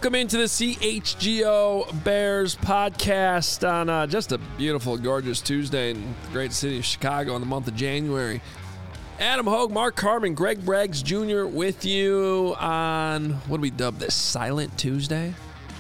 Welcome into the CHGO Bears podcast on just a beautiful, gorgeous Tuesday in the great city of Chicago in the month of January. Adam Hogue, Mark Carman, Greg Braggs Jr. with you on, what do we dub this, Silent Tuesday?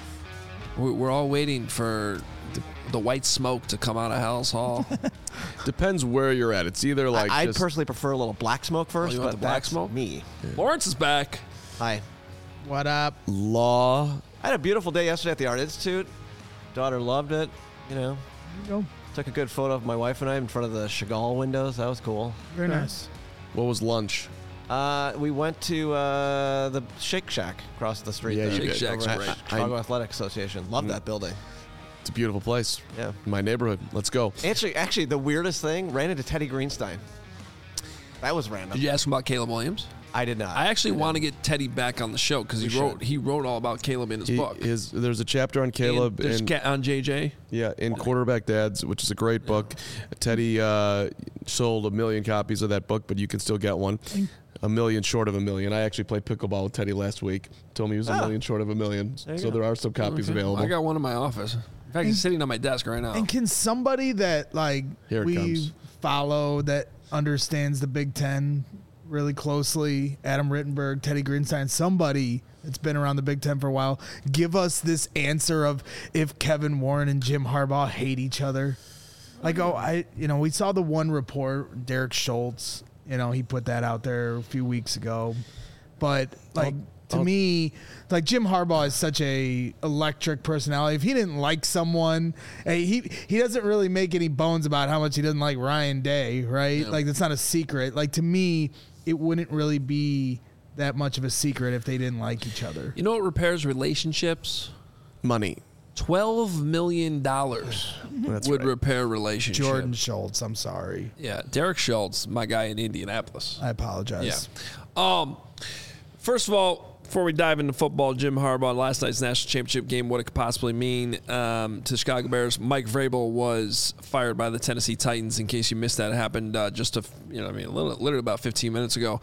We're all waiting for the white smoke to come out of Hell's Hall. Depends where you're at. It's either like I personally prefer a little black smoke first, you want but the black that's smoke? me. Yeah. Lawrence is back. Hi. What up? law. I had a beautiful day yesterday at the Art Institute. Daughter loved it. You know, There you go. took a good photo of my wife and I in front of the Chagall windows. That was cool. Very nice. What was lunch? We went to the Shake Shack across the street. Yeah, there. you Shake did. Shack's Over great. at Chicago Athletic Association. Love that building. It's a beautiful place. Yeah. My neighborhood. Let's go. Actually, the weirdest thing, ran into Teddy Greenstein. That was random. Did you ask him about Caleb Williams? I did not. I actually want to get Teddy back on the show because he wrote all about Caleb in his book. There's a chapter on Caleb on JJ. Yeah, in Quarterback Dads, which is a great book. Teddy sold 1 million copies of that book, but you can still get one. 1 million short of 1 million. I actually played pickleball with Teddy last week. Told me he was 1 million short of 1 million. So there are some copies available. I got one in my office. In fact, it's sitting on my desk right now. And can somebody that Here it we comes. follow that understands the Big Ten really closely, Adam Rittenberg, Teddy Greenstein, somebody that's been around the Big Ten for a while, give us this answer of if Kevin Warren and Jim Harbaugh hate each other? Like, we saw the one report, Derek Schultz, he put that out there a few weeks ago. But to me, like Jim Harbaugh is such a electric personality. If he didn't like someone, he doesn't really make any bones about how much he doesn't like Ryan Day, right? Yeah. Like that's not a secret. Like to me, it wouldn't really be that much of a secret if they didn't like each other. You know what repairs relationships? Money. $12 million would repair relationships. Jordan Schultz, I'm sorry. Yeah, Derek Schultz, my guy in Indianapolis. I apologize. Yeah. First of all, before we dive into football, Jim Harbaugh, last night's national championship game, what it could possibly mean to the Chicago Bears. Mike Vrabel was fired by the Tennessee Titans. In case you missed that, it happened literally about 15 minutes ago.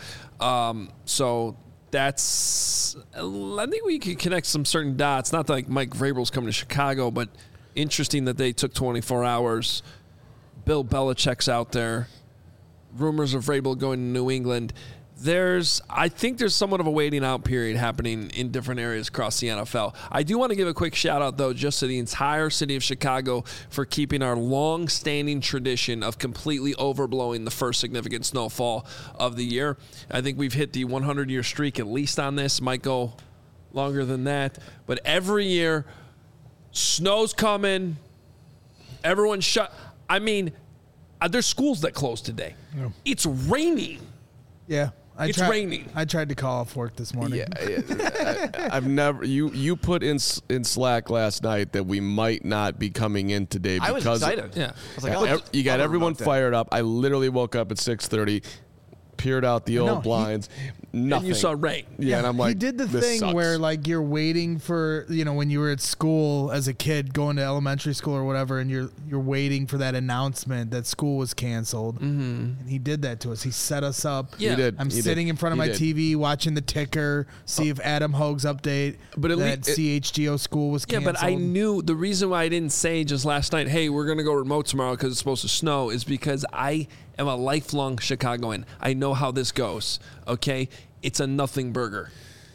So that's, I think we can connect some certain dots. Not that like Mike Vrabel's coming to Chicago, but interesting that they took 24 hours. Bill Belichick's out there. Rumors of Vrabel going to New England. I think there's somewhat of a waiting out period happening in different areas across the NFL. I do want to give a quick shout out, though, just to the entire city of Chicago for keeping our long-standing tradition of completely overblowing the first significant snowfall of the year. I think we've hit the 100-year streak at least on this. Might go longer than that. But every year, snow's coming. Everyone's shut. I mean, there's schools that close today. Yeah. It's raining. Yeah. It's raining. I tried to call off work this morning. Yeah, I've never. You put in Slack last night that we might not be coming in today because I was excited. Yeah, I was like, you got everyone fired up. I literally woke up at 6:30, peered out the old blinds. Nothing. And you saw rain. Yeah, and I'm like, he did the this thing sucks. where like you're waiting for, when you were at school as a kid going to elementary school or whatever, and you're waiting for that announcement that school was canceled. Mm-hmm. And he did that to us. He set us up. Yeah. He did. I'm sitting in front of my TV watching the ticker, see if Adam Hogue's update but at that CHGO school was canceled. Yeah, but I knew the reason why I didn't say just last night, hey, we're going to go remote tomorrow because it's supposed to snow, is because I am a lifelong Chicagoan. I know how this goes, okay? It's a nothing burger.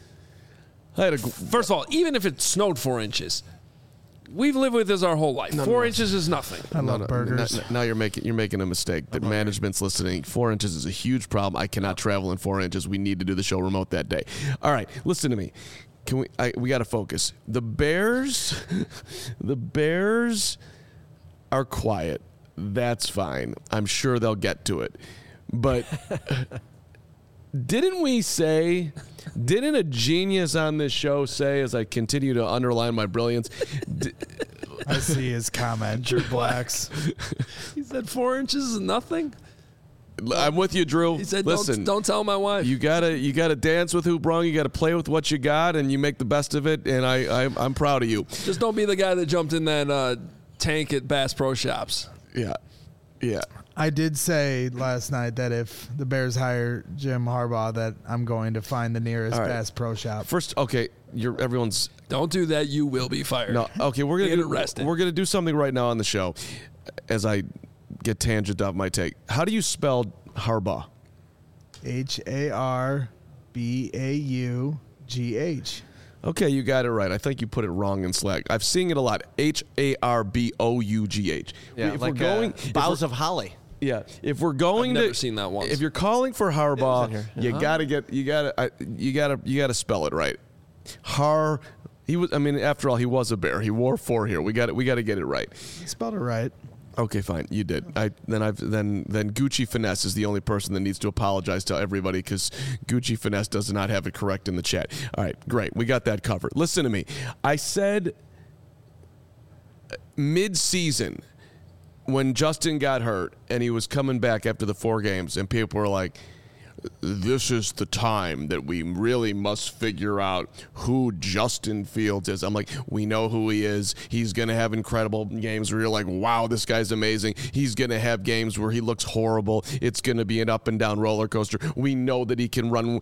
First of all, even if it snowed 4 inches, we've lived with this our whole life. 4 inches is nothing. I love burgers. Now you're making a mistake. That management's listening. 4 inches is a huge problem. I cannot travel in 4 inches. We need to do the show remote that day. All right, listen to me. We got to focus. The Bears are quiet. That's fine. I'm sure they'll get to it. But didn't a genius on this show say, as I continue to underline my brilliance, I see his comment, Drew Blacks. He said 4 inches is nothing? I'm with you, Drew. He said, listen, don't tell my wife. You gotta dance with who brung. You gotta play with what you got, and you make the best of it. And I'm proud of you. Just don't be the guy that jumped in that tank at Bass Pro Shops. Yeah. Yeah. I did say last night that if the Bears hire Jim Harbaugh, that I'm going to find the nearest All right. Bass Pro Shop. First, okay, everyone's Don't do that. You will be fired. no. Okay, we're Get gonna arrested. we're gonna do something right now on the show, as I get tangent off my take. How do you spell Harbaugh? Harbaugh. Okay, you got it right. I think you put it wrong in Slack. I've seen it a lot. Harbough. Yeah, if like we're going, boughs of holly. yeah, if we're going I've to, never seen that once. If you're calling for on Harbaugh, here. you gotta spell it right. He was. I mean, after all, he was a Bear. He wore 4 here. We got to get it right. Spelled it right. Okay, fine. You did. Then Gucci Finesse is the only person that needs to apologize to everybody because Gucci Finesse does not have it correct in the chat. All right, great. We got that covered. Listen to me. I said mid-season when Justin got hurt and he was coming back after the 4 games and people were like, this is the time that we really must figure out who Justin Fields is. I'm like, we know who he is. He's going to have incredible games where you're like, wow, this guy's amazing. He's going to have games where he looks horrible. It's going to be an up and down roller coaster. We know that he can run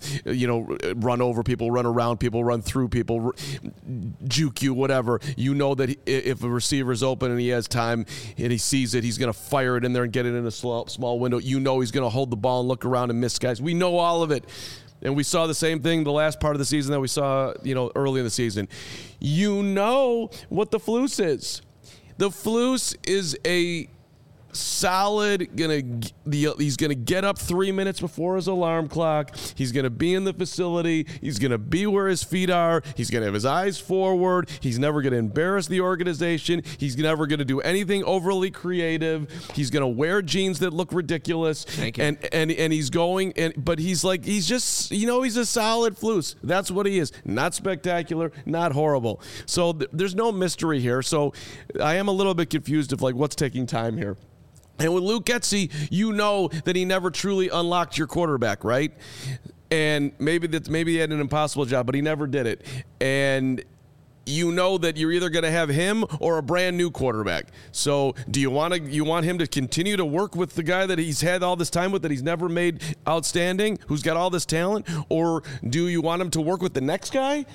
over people, run around people, run through people, juke you, whatever. You know that if a receiver's open and he has time and he sees it, he's going to fire it in there and get it in a small window. You know he's going to hold the ball and look around and miss guys. We know all of it. And we saw the same thing the last part of the season that we saw, early in the season. You know what the Flus is. The Flus is a solid, he's gonna get up 3 minutes before his alarm clock. He's gonna be in the facility. He's gonna be where his feet are. He's gonna have his eyes forward. He's never gonna embarrass the organization. He's never gonna do anything overly creative. He's gonna wear jeans that look ridiculous. Thank you. And he's going, but he's just he's a solid Flus. That's what he is. Not spectacular, not horrible. So there's no mystery here. So I am a little bit confused of what's taking time here. And with Luke Getsy, you know that he never truly unlocked your quarterback, right? And maybe he had an impossible job, but he never did it. And you know that you're either going to have him or a brand new quarterback. So do you want him to continue to work with the guy that he's had all this time with, that he's never made outstanding, who's got all this talent? Or do you want him to work with the next guy?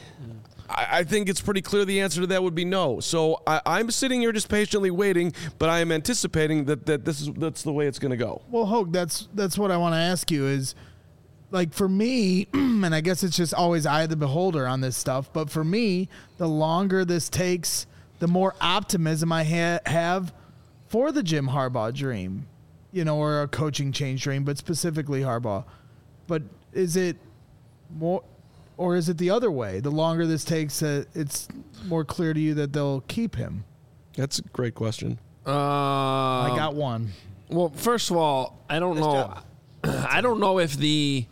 I think it's pretty clear the answer to that would be no. So I'm sitting here just patiently waiting, but I am anticipating that that's the way it's going to go. Well, Hogue, that's what I want to ask you is, for me, and I guess it's just always eye of the beholder on this stuff, but for me, the longer this takes, the more optimism I have for the Jim Harbaugh dream, or a coaching change dream, but specifically Harbaugh. But is it more... Or is it the other way? The longer this takes, it's more clear to you that they'll keep him. That's a great question. I got one. Well, first of all, I don't know. I don't know if the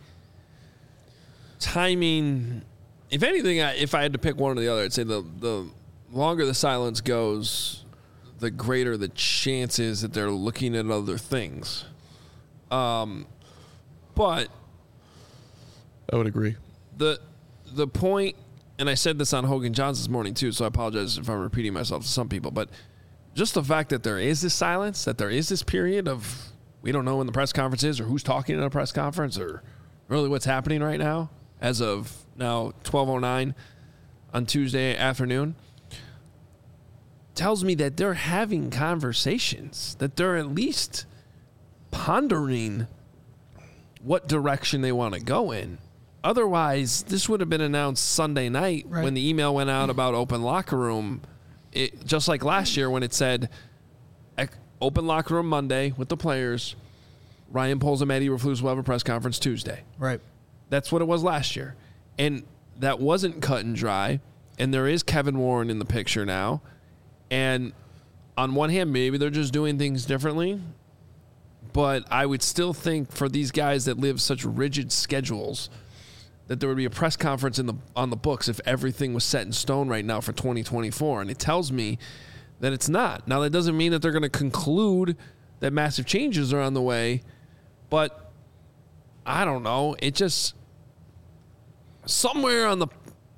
timing. If anything, if I had to pick one or the other, I'd say the longer the silence goes, the greater the chances that they're looking at other things. But I would agree. The point, and I said this on Hogan Johns this morning too, so I apologize if I'm repeating myself to some people, but just the fact that there is this silence, that there is this period of we don't know when the press conference is or who's talking in a press conference or really what's happening right now as of now 12:09 on Tuesday afternoon, tells me that they're having conversations, that they're at least pondering what direction they want to go in. Otherwise, this would have been announced Sunday night when the email went out about open locker room. Just like last year when it said open locker room Monday with the players. Ryan Poles and Matt Eberflus will have a press conference Tuesday. Right. That's what it was last year. And that wasn't cut and dry. And there is Kevin Warren in the picture now. And on one hand, maybe they're just doing things differently. But I would still think for these guys that live such rigid schedules that there would be a press conference on the books if everything was set in stone right now for 2024. And it tells me that it's not. Now, that doesn't mean that they're going to conclude that massive changes are on the way. But I don't know. It just somewhere on the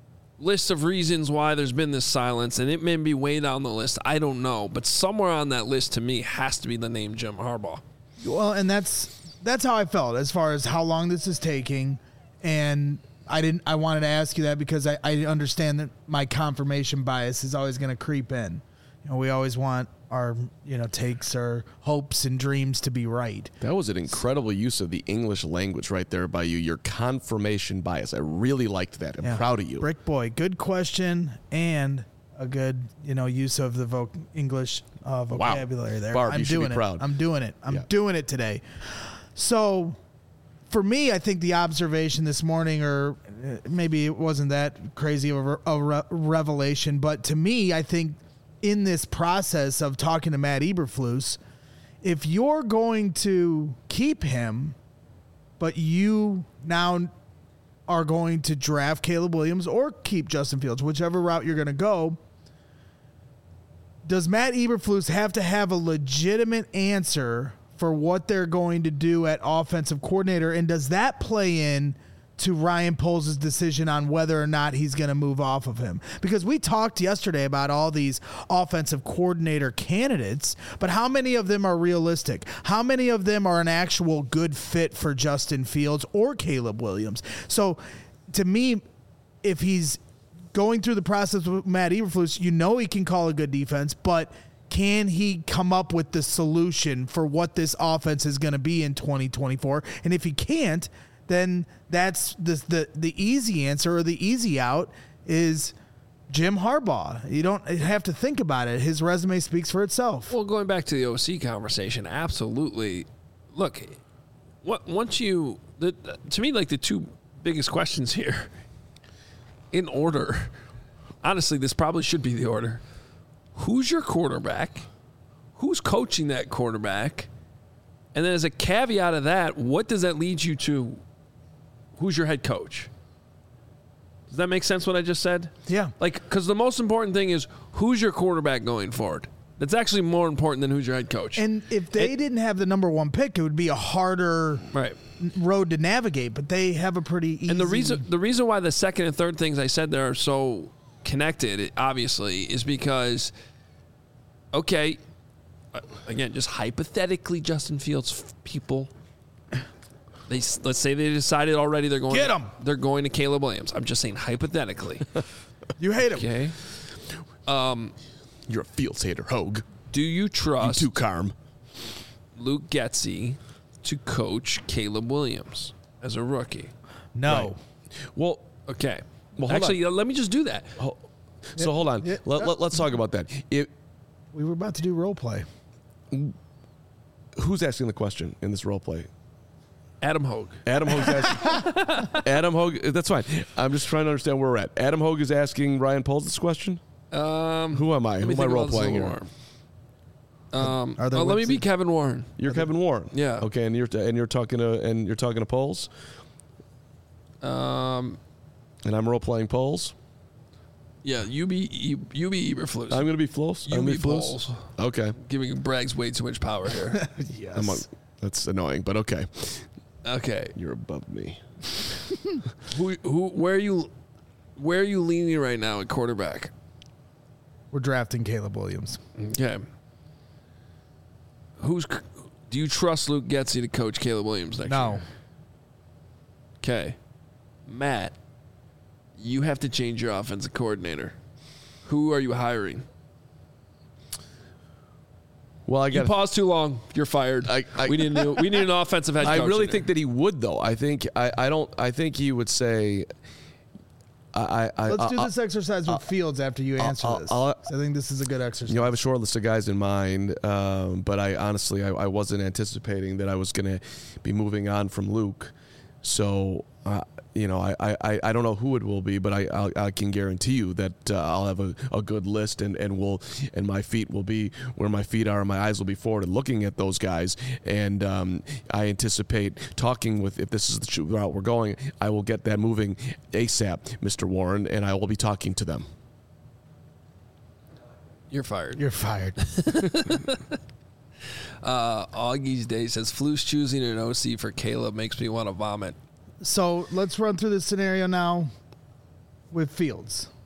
list of reasons why there's been this silence, and it may be way down the list. I don't know, but somewhere on that list to me has to be the name Jim Harbaugh. Well, and that's how I felt as far as how long this is taking, and I wanted to ask you that because I understand that my confirmation bias is always going to creep in. We always want our takes or hopes and dreams to be right. That was an incredible use of the English language right there by you. Your confirmation bias. I really liked that. I'm proud of you. Brick Boy, good question and a good use of the English vocabulary there. Barb, I'm you should doing be it. proud. I'm doing it. I'm doing it today. So for me, I think the observation this morning, or maybe it wasn't that crazy of a revelation, but to me, I think in this process of talking to Matt Eberflus, if you're going to keep him, but you now are going to draft Caleb Williams or keep Justin Fields, whichever route you're going to go, does Matt Eberflus have to have a legitimate answer for what they're going to do at offensive coordinator? And does that play in to Ryan Poles' decision on whether or not he's going to move off of him? Because we talked yesterday about all these offensive coordinator candidates, but how many of them are realistic? How many of them are an actual good fit for Justin Fields or Caleb Williams? So to me, if he's going through the process with Matt Eberflus, he can call a good defense, but can he come up with the solution for what this offense is going to be in 2024? And if he can't, then that's the easy answer, or the easy out is Jim Harbaugh. You don't have to think about it. His resume speaks for itself. Well, going back to the OC conversation, absolutely. Look, to me, like the two biggest questions here, in order, honestly, this probably should be the order. Who's your quarterback? Who's coaching that quarterback? And then as a caveat of that, what does that lead you to? Who's your head coach? Does that make sense what I just said? Yeah. Because the most important thing is who's your quarterback going forward. That's actually more important than who's your head coach. And if they didn't have the number one pick, it would be a harder road to navigate, but they have a pretty easy. And the reason why the second and third things I said there are so connected, obviously, is because, okay, again, just hypothetically, Justin Fields people, let's say they decided already they're going. Get him. They're going to Caleb Williams. I'm just saying hypothetically. You hate him. Okay. You're a Fields hater, Hogue. Do you trust You too, Carm. Luke Getsy to coach Caleb Williams as a rookie? No. Right. Well, Okay. Well, hold actually, let me just do that. so hold on. Yeah. Let's talk about that. We were about to do role play. Who's asking the question in this role play? Adam Hogue. Adam Hogue's asking. Adam Hogue. That's fine. I'm just trying to understand where we're at. Adam Hogue is asking Ryan Poles this question. Who am I? Who am I role playing here? Let me be Kevin Warren. You're Kevin Warren. Yeah. Okay, and you're talking to Poles. And I'm role playing Poles. Yeah, you be Eberflus. I'm going to be Floss. You be Poles. Okay. Giving Braggs way too much power here. Yes. That's annoying, but okay. Okay. You're above me. Where are you leaning right now at quarterback? We're drafting Caleb Williams. Okay. Do you trust Luke Getsy to coach Caleb Williams next year? No. Okay. Matt, you have to change your offensive coordinator. Who are you hiring? Well, You paused too long. You're fired. We need an offensive head coach. I really in think that he would, though. I think he would say. Let's do this exercise with Fields after you answer this. I think this is a good exercise. I have a short list of guys in mind, but I honestly wasn't anticipating that I was going to be moving on from Luke. So, I don't know who it will be, but I can guarantee you that I'll have a good list, and my feet will be where my feet are, and my eyes will be forward and looking at those guys. And I anticipate talking with, if this is the route we're going, I will get that moving ASAP, Mr. Warren, and I will be talking to them. You're fired. You're fired. Augie's Day says, Flus choosing an OC for Caleb makes me want to vomit. So let's run through this scenario now with Fields.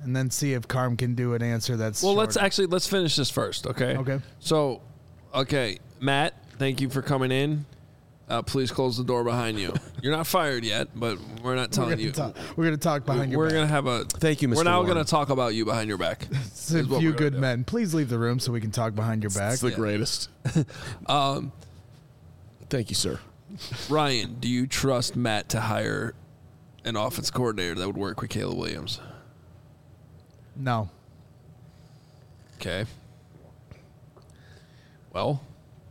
and then see if Carm can do an answer that's Well, shorter. let's finish this first, okay? Okay. So, Matt, thank you for coming in. Please close the door behind you. You're not fired yet, but we're not telling you. We're going to talk behind your We're back. going to have a. Thank you, Mr. We're now Warren. going to talk about you behind your back. It's a is what few we're gonna good do. men. Please leave the room so we can talk behind your back. It's the greatest. Thank you, sir. Ryan, do you trust Matt to hire an offense coordinator that would work with Caleb Williams? No. Okay. Well,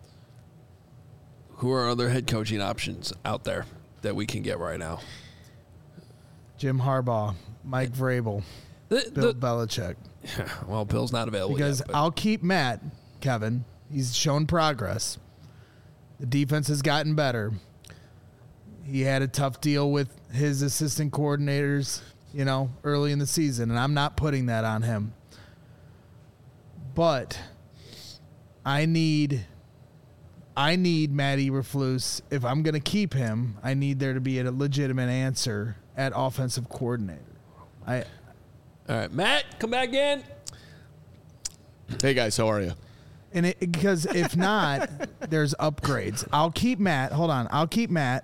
who are other head coaching options out there that we can get right now? Jim Harbaugh, Mike Vrabel, Bill Belichick. Well, Bill's not available Because yet. but- I'll keep Matt, Kevin. He's shown progress. The defense has gotten better. He had a tough deal with his assistant coordinators, early in the season, and I'm not putting that on him. But I need Matt Eberflus. If I'm going to keep him, I need there to be a legitimate answer at offensive coordinator. All right, Matt, come back in. Hey, guys, how are you? And because if not, there's upgrades. I'll keep Matt. Hold on. I'll keep Matt.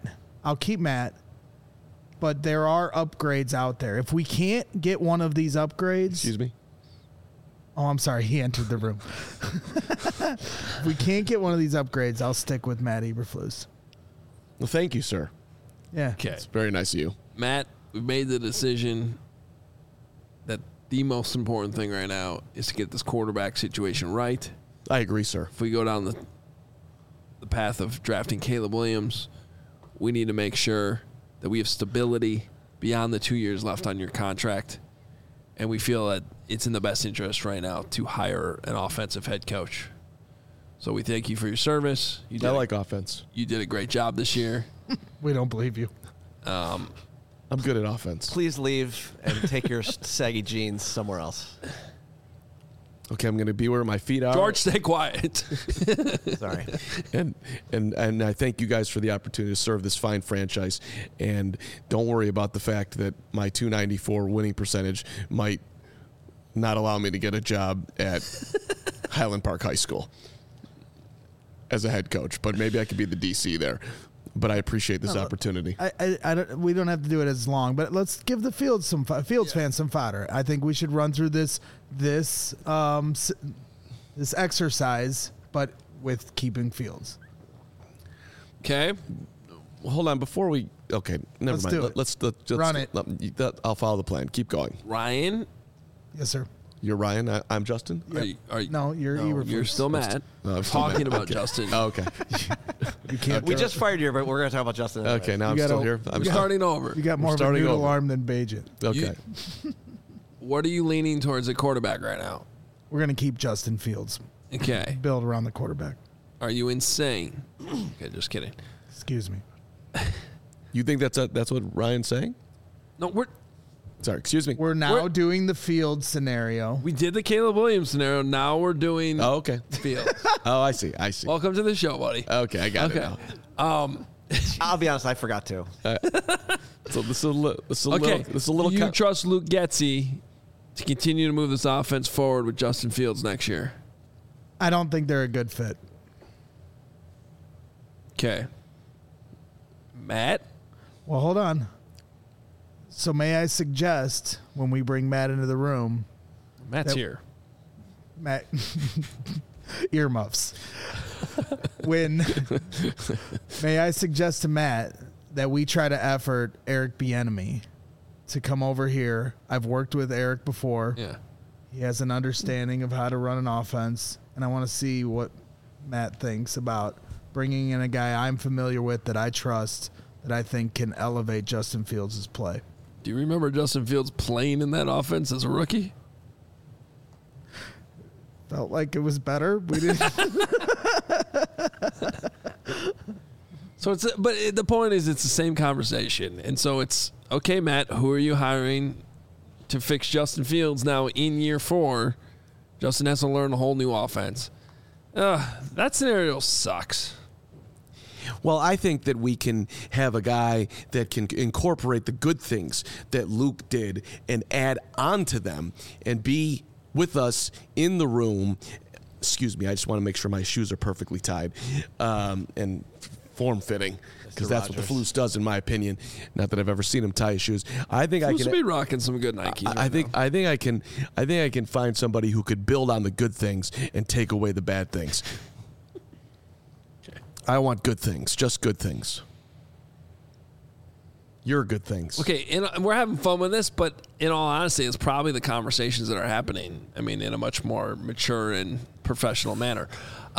But there are upgrades out there. If we can't get one of these upgrades. Excuse me? Oh, I'm sorry. He entered the room. If we can't get one of these upgrades, I'll stick with Matt Eberflus. Well, thank you, sir. Yeah. Okay, It's very nice of you. Matt, we've made the decision that the most important thing right now is to get this quarterback situation right. I agree, sir. If we go down the path of drafting Caleb Williams, we need to make sure that we have stability beyond the 2 years left on your contract. And we feel that it's in the best interest right now to hire an offensive head coach. So we thank you for your service. I like offense. You did a great job this year. We don't believe you. I'm good at offense. Please leave and take your saggy jeans somewhere else. Okay, I'm going to be where my feet are. George, stay quiet. Sorry. And I thank you guys for the opportunity to serve this fine franchise. And don't worry about the fact that my 294 winning percentage might not allow me to get a job at Highland Park High School as a head coach. But maybe I could be the DC there. But I appreciate this opportunity. We don't have to do it as long, but let's give the Fields fans some fodder. I think we should run through this exercise, but with keeping Fields. Okay. Well, hold on. Before we... Okay, never Let's mind. do it. Let's Run it. I'll follow the plan. Keep going. Ryan, Yes, sir. You're Ryan. I'm Justin? are you, No, you're Eberflus. you're still Matt. No, I'm still talking Matt. about Okay. Justin. Oh, okay. You can't. We just fired you, but we're going to talk about Justin. anyway. Okay, now You I'm gotta- still here. I'm We're starting over. You got more of a starting noodle over. arm than Bajan. Okay. What are you leaning towards at quarterback right now? We're gonna keep Justin Fields. Okay. Build around the quarterback. Are you insane? Okay, just kidding. Excuse me. You think that's what Ryan's saying? No, Sorry, excuse me. We're now doing the Fields scenario. we did the Caleb Williams scenario. Now we're doing Oh, okay. Fields. Oh, I see. Welcome to the show, buddy. Okay, I got it Okay. now. I'll be honest, I forgot to. So this is a Okay. little. You trust Luke Getsy to continue to move this offense forward with Justin Fields next year? I don't think they're a good fit. Okay. Matt? Well, hold on. So may I suggest when we bring Matt into the room, Matt's here. Matt earmuffs. May I suggest to Matt that we try to effort Eric Bieniemy to come over here. I've worked with Eric before. Yeah. He has an understanding of how to run an offense, and I want to see what Matt thinks about bringing in a guy I'm familiar with that I trust, that I think can elevate Justin Fields' play. Do you remember Justin Fields playing in that offense as a rookie? Felt like it was better. We didn't. So the point is, it's the same conversation, and so it's okay, Matt. Who are you hiring to fix Justin Fields now in year 4? Justin has to learn a whole new offense. That scenario sucks. Well, I think that we can have a guy that can incorporate the good things that Luke did and add on to them and be with us in the room. Excuse me, I just want to make sure my shoes are perfectly tied and form-fitting, because that's what the Flus does, in my opinion. Not that I've ever seen him tie his shoes. I think Flus will be rocking some good Nikes. I think I can find somebody who could build on the good things and take away the bad things. I want good things, just good things. Your good things. Okay, and we're having fun with this, but in all honesty, it's probably the conversations that are happening. I mean, in a much more mature and professional manner.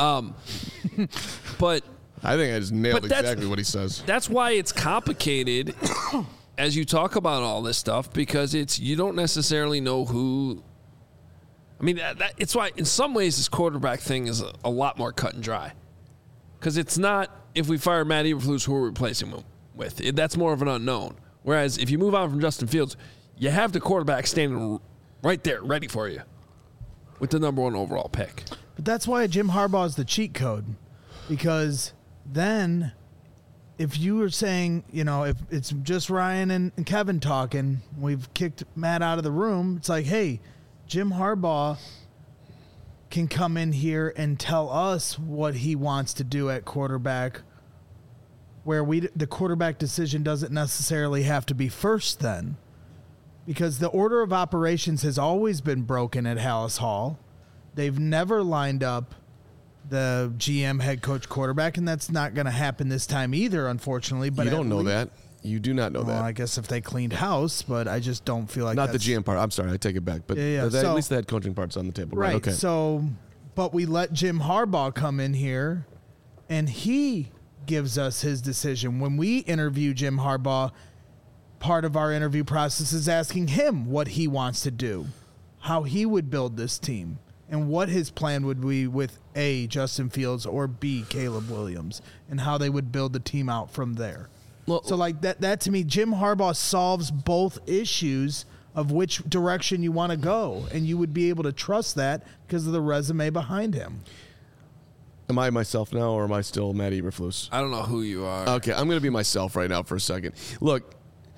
But I think I just nailed exactly what he says. That's why it's complicated as you talk about all this stuff, because you don't necessarily know who. I mean, it's why in some ways this quarterback thing is a lot more cut and dry, because it's not, if we fire Matt Eberflus, who we're replacing him with. That's more of an unknown. Whereas if you move on from Justin Fields, you have the quarterback standing right there, ready for you, with the number 1 overall pick. But that's why Jim Harbaugh is the cheat code, because then if you were saying, if it's just Ryan and Kevin talking, we've kicked Matt out of the room, it's like, hey, Jim Harbaugh can come in here and tell us what he wants to do at quarterback, where the quarterback decision doesn't necessarily have to be first then, because the order of operations has always been broken at Hallis Hall. They've never lined up the GM, head coach, quarterback, and that's not going to happen this time either, unfortunately. But you don't know that. You do not know that. I guess if they cleaned house, but I just don't feel like not the GM part. I'm sorry, I take it back. But at least the head coaching part's on the table, right? Okay. So, but we let Jim Harbaugh come in here, and he gives us his decision. When we interview Jim Harbaugh, part of our interview process is asking him what he wants to do, how he would build this team, and what his plan would be with A, Justin Fields, or B, Caleb Williams, and how they would build the team out from there. Well, so like that to me, Jim Harbaugh solves both issues of which direction you want to go, and you would be able to trust that because of the resume behind him. Am I myself now, or am I still Matt Eberflus? I don't know who you are. Okay, I'm going to be myself right now for a second. Look,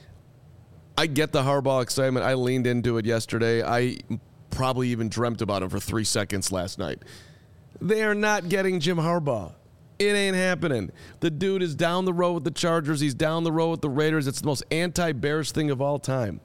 I get the Harbaugh excitement. I leaned into it yesterday. I probably even dreamt about him for 3 seconds last night. They are not getting Jim Harbaugh. It ain't happening. The dude is down the road with the Chargers. He's down the road with the Raiders. It's the most anti-Bears thing of all time.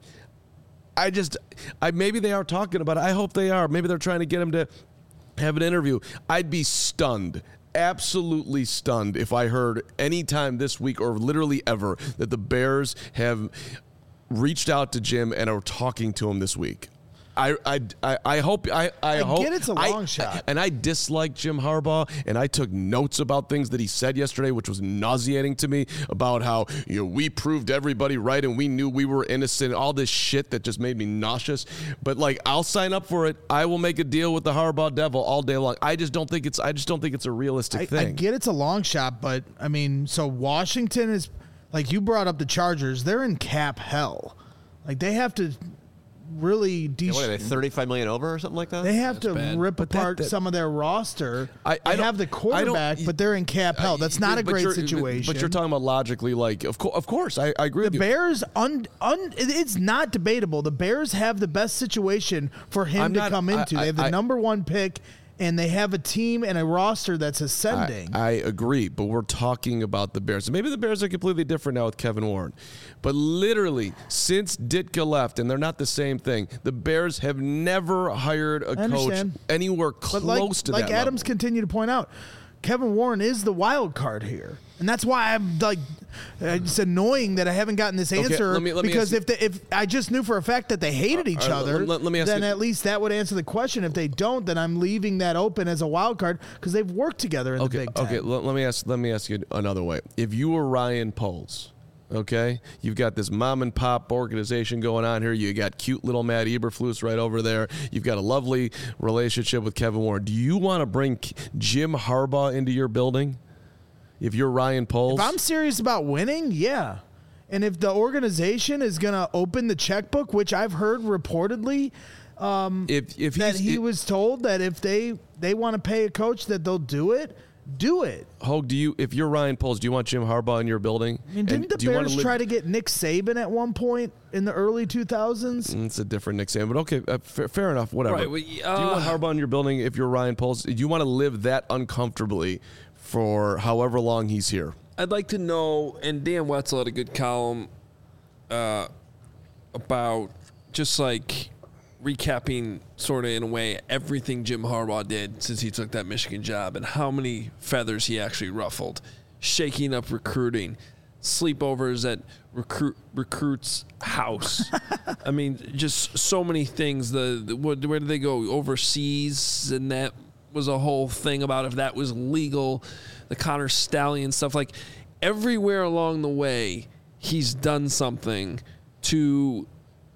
Maybe they are talking about it. I hope they are. Maybe they're trying to get him to have an interview. I'd be stunned, absolutely stunned, if I heard any time this week or literally ever that the Bears have reached out to Jim and are talking to him this week. I hope I hope get it's a long shot. And I dislike Jim Harbaugh, and I took notes about things that he said yesterday, which was nauseating to me, about how we proved everybody right and we knew we were innocent, all this shit that just made me nauseous. But I'll sign up for it. I will make a deal with the Harbaugh devil all day long. I just don't think it's a realistic thing. I get it's a long shot, but I mean, so Washington is, like you brought up the Chargers, they're in cap hell. Like they have to really what are they, $35 million over or something like that? They have to rip apart some of their roster. I have the quarterback, but they're in cap hell. That's not a great situation. But you're talking about logically, of course, I agree with you. The Bears, it's not debatable. The Bears have the best situation for him to come into. They have the number 1 pick, and they have a team and a roster that's ascending. I agree, but we're talking about the Bears. Maybe the Bears are completely different now with Kevin Warren. But literally, since Ditka left, and they're not the same thing, the Bears have never hired a coach anywhere close to that level. Like Adams continued to point out, Kevin Warren is the wild card here. And that's why I'm it's annoying that I haven't gotten this answer. Because if I just knew for a fact that they hated each other, then at least that would answer the question. If they don't, then I'm leaving that open as a wild card because they've worked together in the Big Ten. Okay, let me ask you another way. If you were Ryan Poles, okay, you've got this mom and pop organization going on here. You got cute little Matt Eberflus right over there. You've got a lovely relationship with Kevin Warren. Do you want to bring Jim Harbaugh into your building? If you're Ryan Poles? If I'm serious about winning, yeah. And if the organization is going to open the checkbook, which I've heard reportedly he was told that if they want to pay a coach that they'll do it, Do it. Hogue, if you're Ryan Poles, do you want Jim Harbaugh in your building? I mean, didn't the Bears try to get Nick Saban at one point in the early 2000s? It's a different Nick Saban, but okay, fair enough, whatever. Right, well, do you want Harbaugh in your building if you're Ryan Poles? Do you want to live that uncomfortably for however long he's here? I'd like to know, and Dan Wetzel had a good column about just like recapping sort of in a way everything Jim Harbaugh did since he took that Michigan job and how many feathers he actually ruffled, shaking up recruiting, sleepovers at recruits' house. I mean, just so many things. Where did they go? Overseas, and that was a whole thing about if that was legal. The Connor Stallion stuff, like everywhere along the way, he's done something to,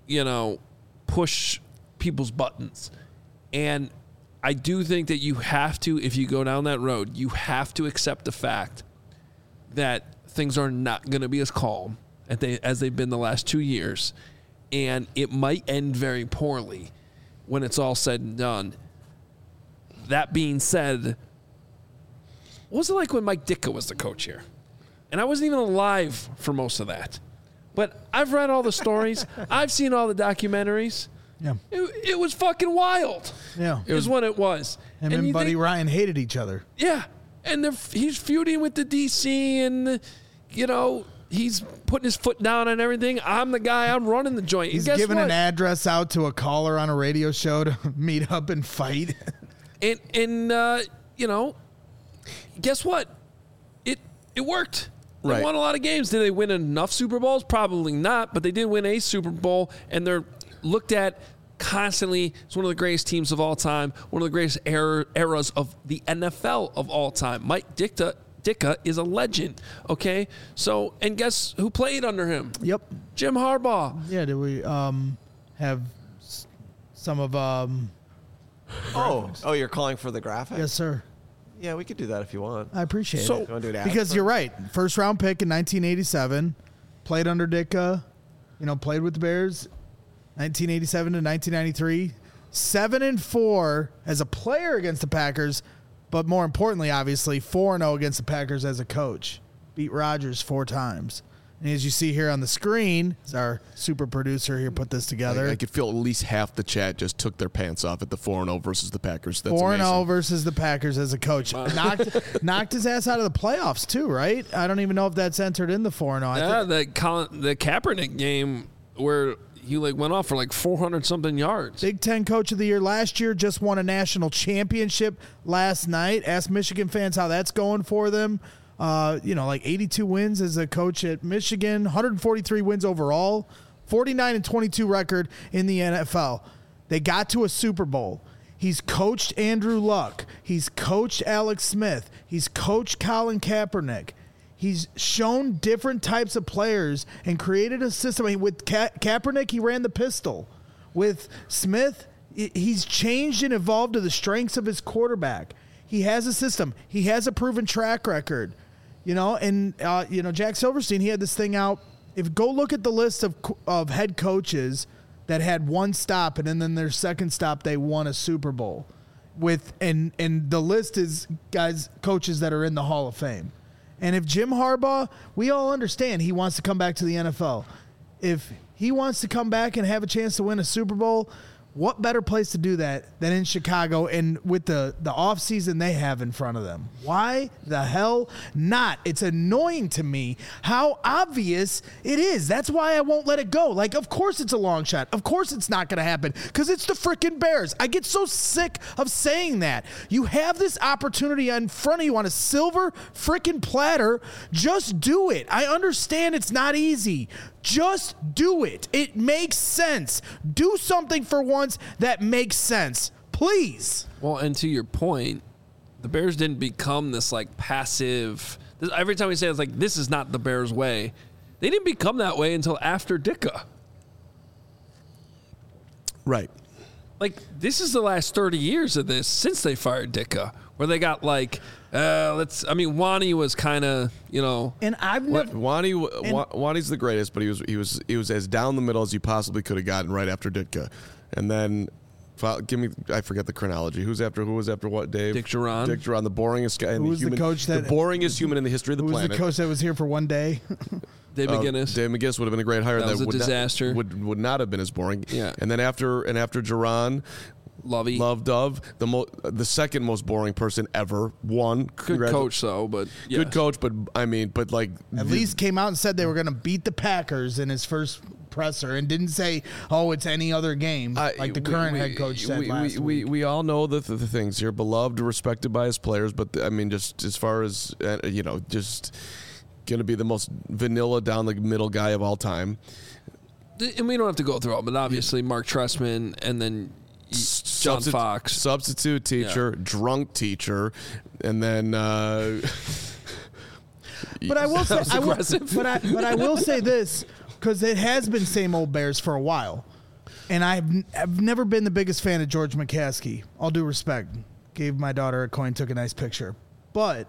push people's buttons. And I do think that you have to, if you go down that road, you have to accept the fact that things are not going to be as calm as they've been the last 2 years. And it might end very poorly when it's all said and done. That being said, what was it like when Mike Ditka was the coach here? And I wasn't even alive for most of that. But I've read all the stories. I've seen all the documentaries. Yeah. It was fucking wild. Yeah. It was what it was. Him and Buddy Ryan hated each other. Yeah. And he's feuding with the DC and, he's putting his foot down on everything. I'm the guy. I'm running the joint. He's giving an address out to a caller on a radio show to meet up and fight. And guess what? It worked. They won a lot of games. Did they win enough Super Bowls? Probably not, but they did win a Super Bowl, and they're looked at constantly as one of the greatest teams of all time, one of the greatest eras of the NFL of all time. Mike Ditka is a legend, okay? So, and guess who played under him? Yep. Jim Harbaugh. Yeah, did we have some of... Oh, you're calling for the graphic? Yes, sir. Yeah, we could do that if you want. I appreciate You it. wanna do an ad Because for you're it? right. First round pick in 1987. Played under Ditka. Played with the Bears 1987 to 1993. 7-4 as a player against the Packers. But more importantly, obviously, 4-0 against the Packers as a coach. Beat Rodgers 4 times. And as you see here on the screen, as our super producer here put this together. I could feel at least half the chat just took their pants off at the 4-0 versus the Packers. That's 4-0 versus the Packers as a coach. Knocked his ass out of the playoffs too, right? I don't even know if that's entered in the 4-0. Yeah, the Kaepernick game where he went off for 400-something yards. Big Ten Coach of the Year last year, just won a national championship last night. Ask Michigan fans how that's going for them. 82 wins as a coach at Michigan, 143 wins overall, 49-22 record in the NFL. They got to a Super Bowl. He's coached Andrew Luck. He's coached Alex Smith. He's coached Colin Kaepernick. He's shown different types of players and created a system. I mean, with Kaepernick, he ran the pistol. With Smith, he's changed and evolved to the strengths of his quarterback. He has a system. He has a proven track record. Jack Silverstein, he had this thing out. Go look at the list of head coaches that had one stop, and then their second stop, they won a Super Bowl. And the list is coaches that are in the Hall of Fame. And if Jim Harbaugh, we all understand he wants to come back to the NFL. If he wants to come back and have a chance to win a Super Bowl, what better place to do that than in Chicago and with the offseason they have in front of them? Why the hell not? It's annoying to me how obvious it is. That's why I won't let it go. Of course it's a long shot. Of course it's not going to happen because it's the freaking Bears. I get so sick of saying that. You have this opportunity in front of you on a silver freaking platter. Just do it. I understand it's not easy. Just do it. It makes sense. Do something for once that makes sense. Please. Well, and to your point, the Bears didn't become this passive. Every time we say it's this is not the Bears way. They didn't become that way until after Ditka. Right. This is the last 30 years of this since they fired Ditka, where they got Wani was kind of, And I've never. Wani's the greatest, but he was as down the middle as you possibly could have gotten right after Ditka, and then Give me. I forget the chronology. Who was after what? Dave. Dick Duran. Dick Duran, the boringest guy. Who was the coach that? The boringest human in the history of the Who was planet. the coach that was here for one day? Dave McGinnis. Dave McGinnis would have been a great hire. That was a disaster. Would not have been as boring. Yeah. And then after Duran, Lovey. Love Dove, the second most boring person ever. Good coach though, but yeah. Good coach, but like At least came out and said they were going to beat the Packers in his first presser, and didn't say, "Oh, it's any other game," like the current head coach said last week. We all know the things here. Beloved, respected by his players, but just as far as just going to be the most vanilla down the middle guy of all time. And we don't have to go through all, but obviously Mark Trestman and then John Fox. Substitute teacher, drunk teacher, and then But I will say, but I will say this, because it has been same old Bears for a while, and I've never been the biggest fan of George McCaskey. All due respect, gave my daughter a coin, took a nice picture, but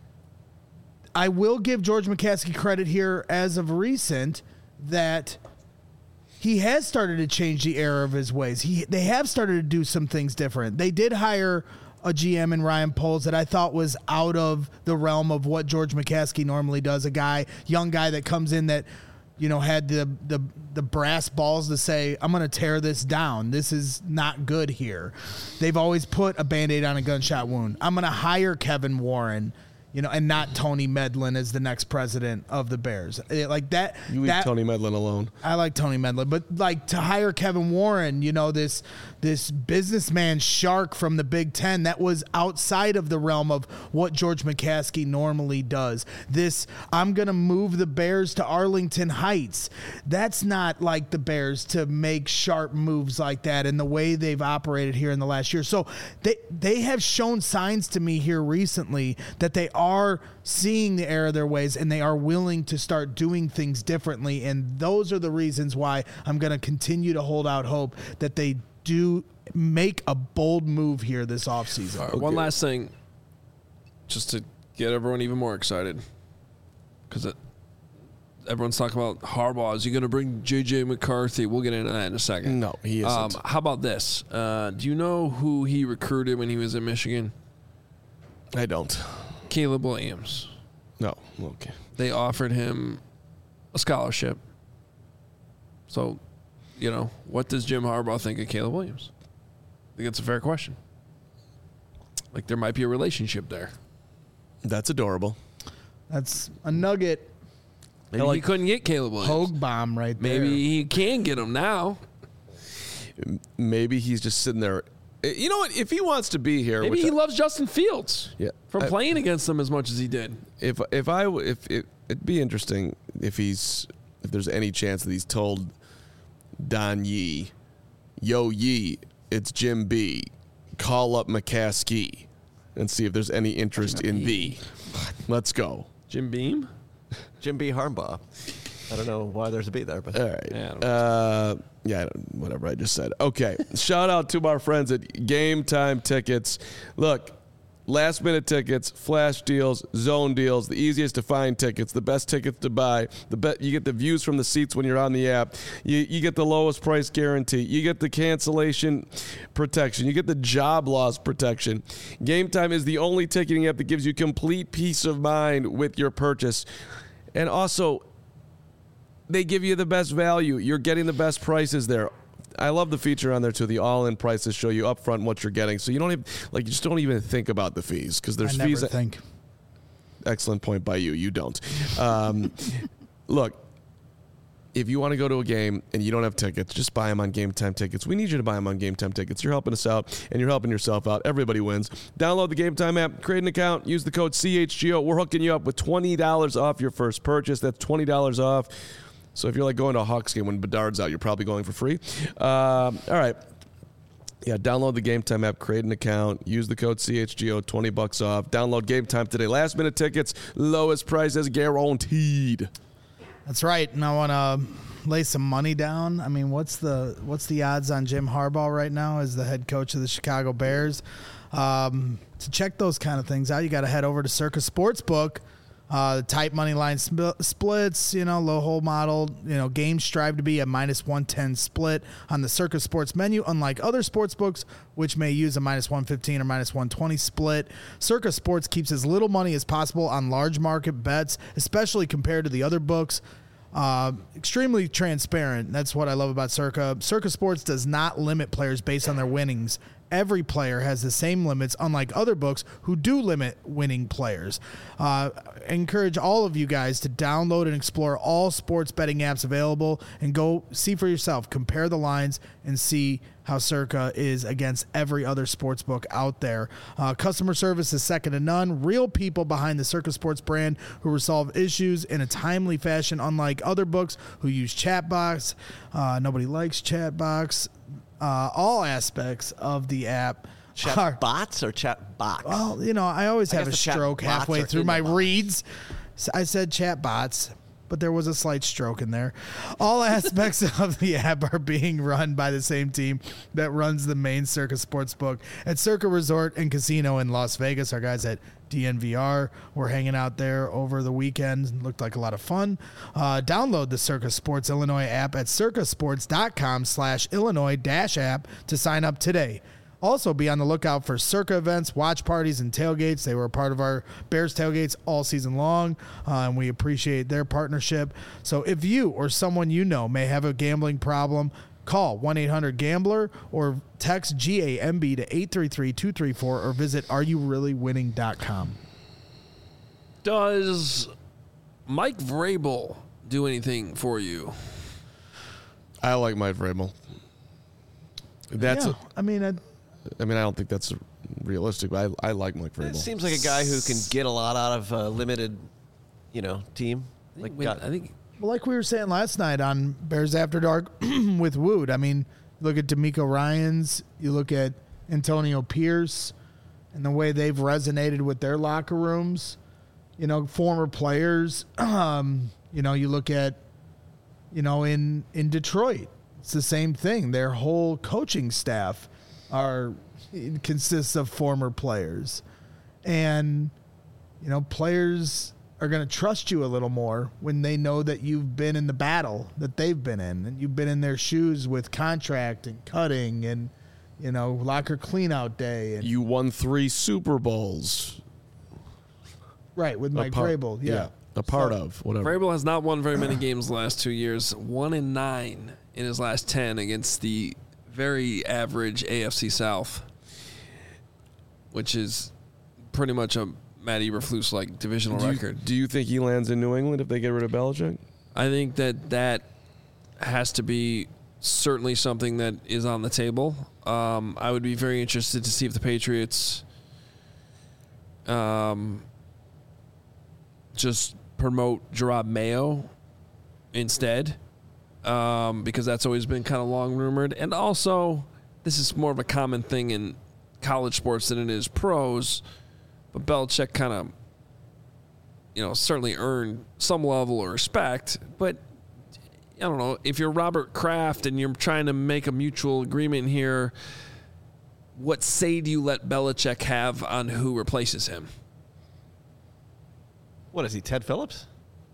I will give George McCaskey credit here as of recent that he has started to change the era of his ways. They have started to do some things different. They did hire a GM in Ryan Poles that I thought was out of the realm of what George McCaskey normally does. A young guy that comes in that, had the brass balls to say, I'm going to tear this down. This is not good here. They've always put a Band-Aid on a gunshot wound. I'm going to hire Kevin Warren, and not Tony Medlin as the next president of the Bears. Like that. You leave Tony Medlin alone. I like Tony Medlin, but like to hire Kevin Warren, this businessman shark from the Big Ten that was outside of the realm of what George McCaskey normally does. I'm going to move the Bears to Arlington Heights. That's not like the Bears to make sharp moves like that in the way they've operated here in the last year. So they have shown signs to me here recently that they are seeing the error of their ways and they are willing to start doing things differently. And those are the reasons why I'm going to continue to hold out hope that they do make a bold move here this offseason. Right, one last thing, just to get everyone even more excited, because everyone's talking about Harbaugh. Is he going to bring J.J. McCarthy? We'll get into that in a second. No, he isn't. How about this? Do you know who he recruited when he was in Michigan? I don't. Caleb Williams. No. Okay. They offered him a scholarship. So, what does Jim Harbaugh think of Caleb Williams? I think it's a fair question. Like, there might be a relationship there. That's adorable. That's a nugget. Maybe he couldn't get Caleb Williams. Hogue bomb right there. Maybe he can get him now. Maybe he's just sitting there. You know what? If he wants to be here, maybe he loves Justin Fields. Yeah, from playing against them as much as he did. If it'd be interesting if there's any chance that he's told Don Yee, yo Yee, it's Jim B, call up McCaskey and see if there's any interest in thee. Let's go. Jim Beam? Jim B. Harbaugh. I don't know why there's a B there, but all right. Whatever I just said. Okay. Shout out to our friends at Game Time Tickets. Look, last minute tickets, flash deals, zone deals, the easiest to find tickets, the best tickets to buy. You get the views from the seats when you're on the app. You get the lowest price guarantee. You get the cancellation protection. You get the job loss protection. Game Time is the only ticketing app that gives you complete peace of mind with your purchase. And also, they give you the best value. You're getting the best prices there. I love the feature on there too. The all-in prices show you upfront what you're getting, so you don't you just don't even think about the fees because there's fees. I never think. Excellent point by you. You don't. Look, if you want to go to a game and you don't have tickets, just buy them on Game Time Tickets. We need you to buy them on Game Time Tickets. You're helping us out, and you're helping yourself out. Everybody wins. Download the Game Time app, create an account, use the code CHGO. We're hooking you up with $20 off your first purchase. That's $20 off. So if you're like going to a Hawks game when Bedard's out, you're probably going for free. All right. Yeah, download the Game Time app, create an account, use the code CHGO, $20 off. Download Game Time today. Last minute tickets, lowest prices guaranteed. That's right. And I want to lay some money down. I mean, what's the odds on Jim Harbaugh right now as the head coach of the Chicago Bears? To check those kind of things out, you got to head over to Circa Sportsbook. Tight money line splits, low hold model, games strive to be a -110 split on the Circa Sports menu, unlike other sports books, which may use a -115 or -120 split. Circa Sports keeps as little money as possible on large market bets, especially compared to the other books. Extremely transparent. That's what I love about Circa. Circa Sports does not limit players based on their winnings. Every player has the same limits, unlike other books who do limit winning players. I encourage all of you guys to download and explore all sports betting apps available and go see for yourself. Compare the lines and see how Circa is against every other sports book out there. Customer service is second to none. Real people behind the Circa Sports brand who resolve issues in a timely fashion, unlike other books who use chatbots. Nobody likes chatbots. All aspects of the app. Chat bots or chat box? Well, I always have a guess the chat stroke bots halfway are through in my the box. reads. So I said chat bots, but there was a slight stroke in there. All aspects of the app are being run by the same team that runs the main Circa Sportsbook at Circa Resort and Casino in Las Vegas. Our guys at DNVR were hanging out there over the weekend. Looked like a lot of fun. Download the Circa Sports Illinois app at circasports.com/Illinois-app to sign up today. Also, be on the lookout for Circa events, watch parties, and tailgates. They were a part of our Bears tailgates all season long, and we appreciate their partnership. So if you or someone you know may have a gambling problem, call 1-800-GAMBLER or text GAMB to 833-234 or visit areyourreallywinning.com. Does Mike Vrabel do anything for you? I like Mike Vrabel. I don't think that's realistic, but I like Mike Vrabel. It seems like a guy who can get a lot out of a limited, team. I think Well, like we were saying last night on Bears After Dark with Wood, look at D'Amico Ryans, you look at Antonio Pierce and the way they've resonated with their locker rooms, former players. You look at, in Detroit, it's the same thing. Their whole coaching staff consists of former players. And, players are going to trust you a little more when they know that you've been in the battle that they've been in, and you've been in their shoes with contract and cutting and, locker cleanout day. And You won 3 Super Bowls. right, with Mike Vrabel. Yeah. A part of, whatever. Vrabel has not won very many games the last 2 years. 1-9 in his last 10 against the very average AFC South, which is pretty much a Matt Eberflus-like divisional record. Do you think he lands in New England if they get rid of Belichick? I think that has to be certainly something that is on the table. I would be very interested to see if the Patriots just promote Gerard Mayo instead, because that's always been kind of long rumored. And also, this is more of a common thing in college sports than it is pros. But Belichick kind of, certainly earned some level of respect. But I don't know, if you're Robert Kraft and you're trying to make a mutual agreement here, what say do you let Belichick have on who replaces him? What is he, Ted Phillips?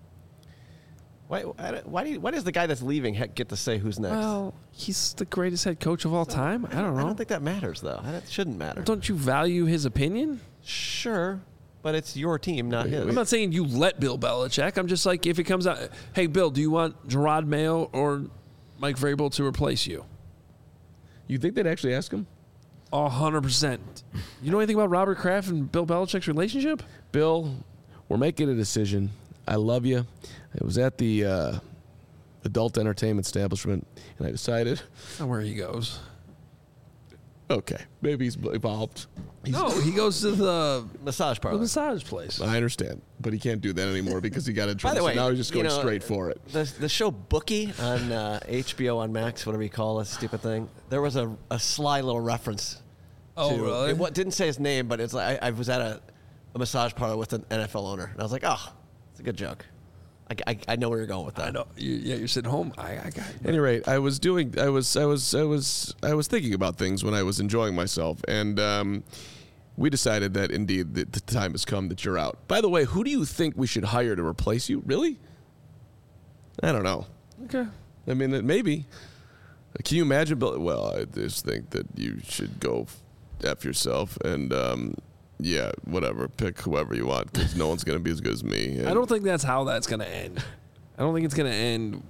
Why does the guy that's leaving get to say who's next? Well, he's the greatest head coach of all time. I don't know. I don't think that matters, though. That shouldn't matter. Don't you value his opinion? Sure, but it's your team, not his. I'm not saying you let Bill Belichick. I'm just like, if it comes out, hey, Bill, do you want Gerard Mayo or Mike Vrabel to replace you? You think they'd actually ask him? 100%. You know anything about Robert Kraft and Bill Belichick's relationship? Bill, we're making a decision. I love you. It was at the adult entertainment establishment, and I decided, That's not where he goes. okay, maybe he's evolved. No, he goes to the Massage parlor. massage place. I understand, but he can't do that anymore because he got in By trouble. the way, So now he's just going straight for it. The show Bookie on HBO on Max, whatever you call this stupid thing, there was a sly little reference. Oh, to, really? It didn't say his name, but it's like I was at a massage parlor with an NFL owner, and I was like, oh, it's a good joke. I know where you're going with that. I know. You're sitting home. I got At any rate, I was thinking about things when I was enjoying myself, and we decided that indeed the time has come that you're out. By the way, who do you think we should hire to replace you? Really? I don't know. Okay. I mean, maybe. Can you imagine? Well, I just think that you should go F yourself and, yeah, whatever. Pick whoever you want because no one's going to be as good as me. And I don't think that's how that's going to end. I don't think it's going to end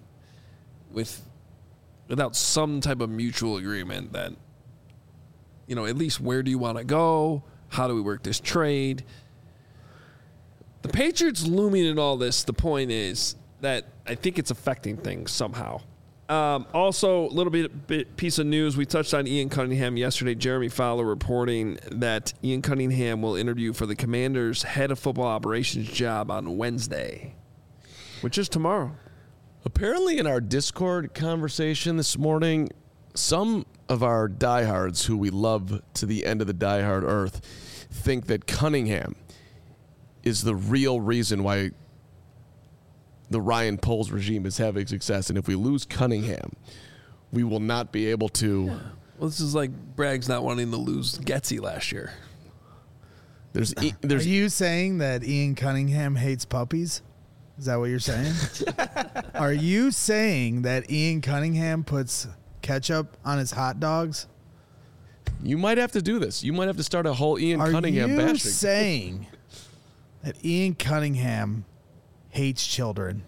without some type of mutual agreement that, at least where do you want to go? How do we work this trade? The Patriots looming in all this, the point is that I think it's affecting things somehow. Also, a little bit piece of news. We touched on Ian Cunningham yesterday. Jeremy Fowler reporting that Ian Cunningham will interview for the Commanders' head of football operations job on Wednesday, which is tomorrow. Apparently, in our Discord conversation this morning, some of our diehards who we love to the end of the diehard earth think that Cunningham is the real reason why the Ryan Poles regime is having success. And if we lose Cunningham, we will not be able to. Yeah. Well, this is like Bragg's not wanting to lose Getsy last year. Are you saying that Ian Cunningham hates puppies? Is that what you're saying? Are you saying that Ian Cunningham puts ketchup on his hot dogs? You might have to do this. You might have to start a whole Ian Cunningham bashing. Are you saying that Ian Cunningham hates children?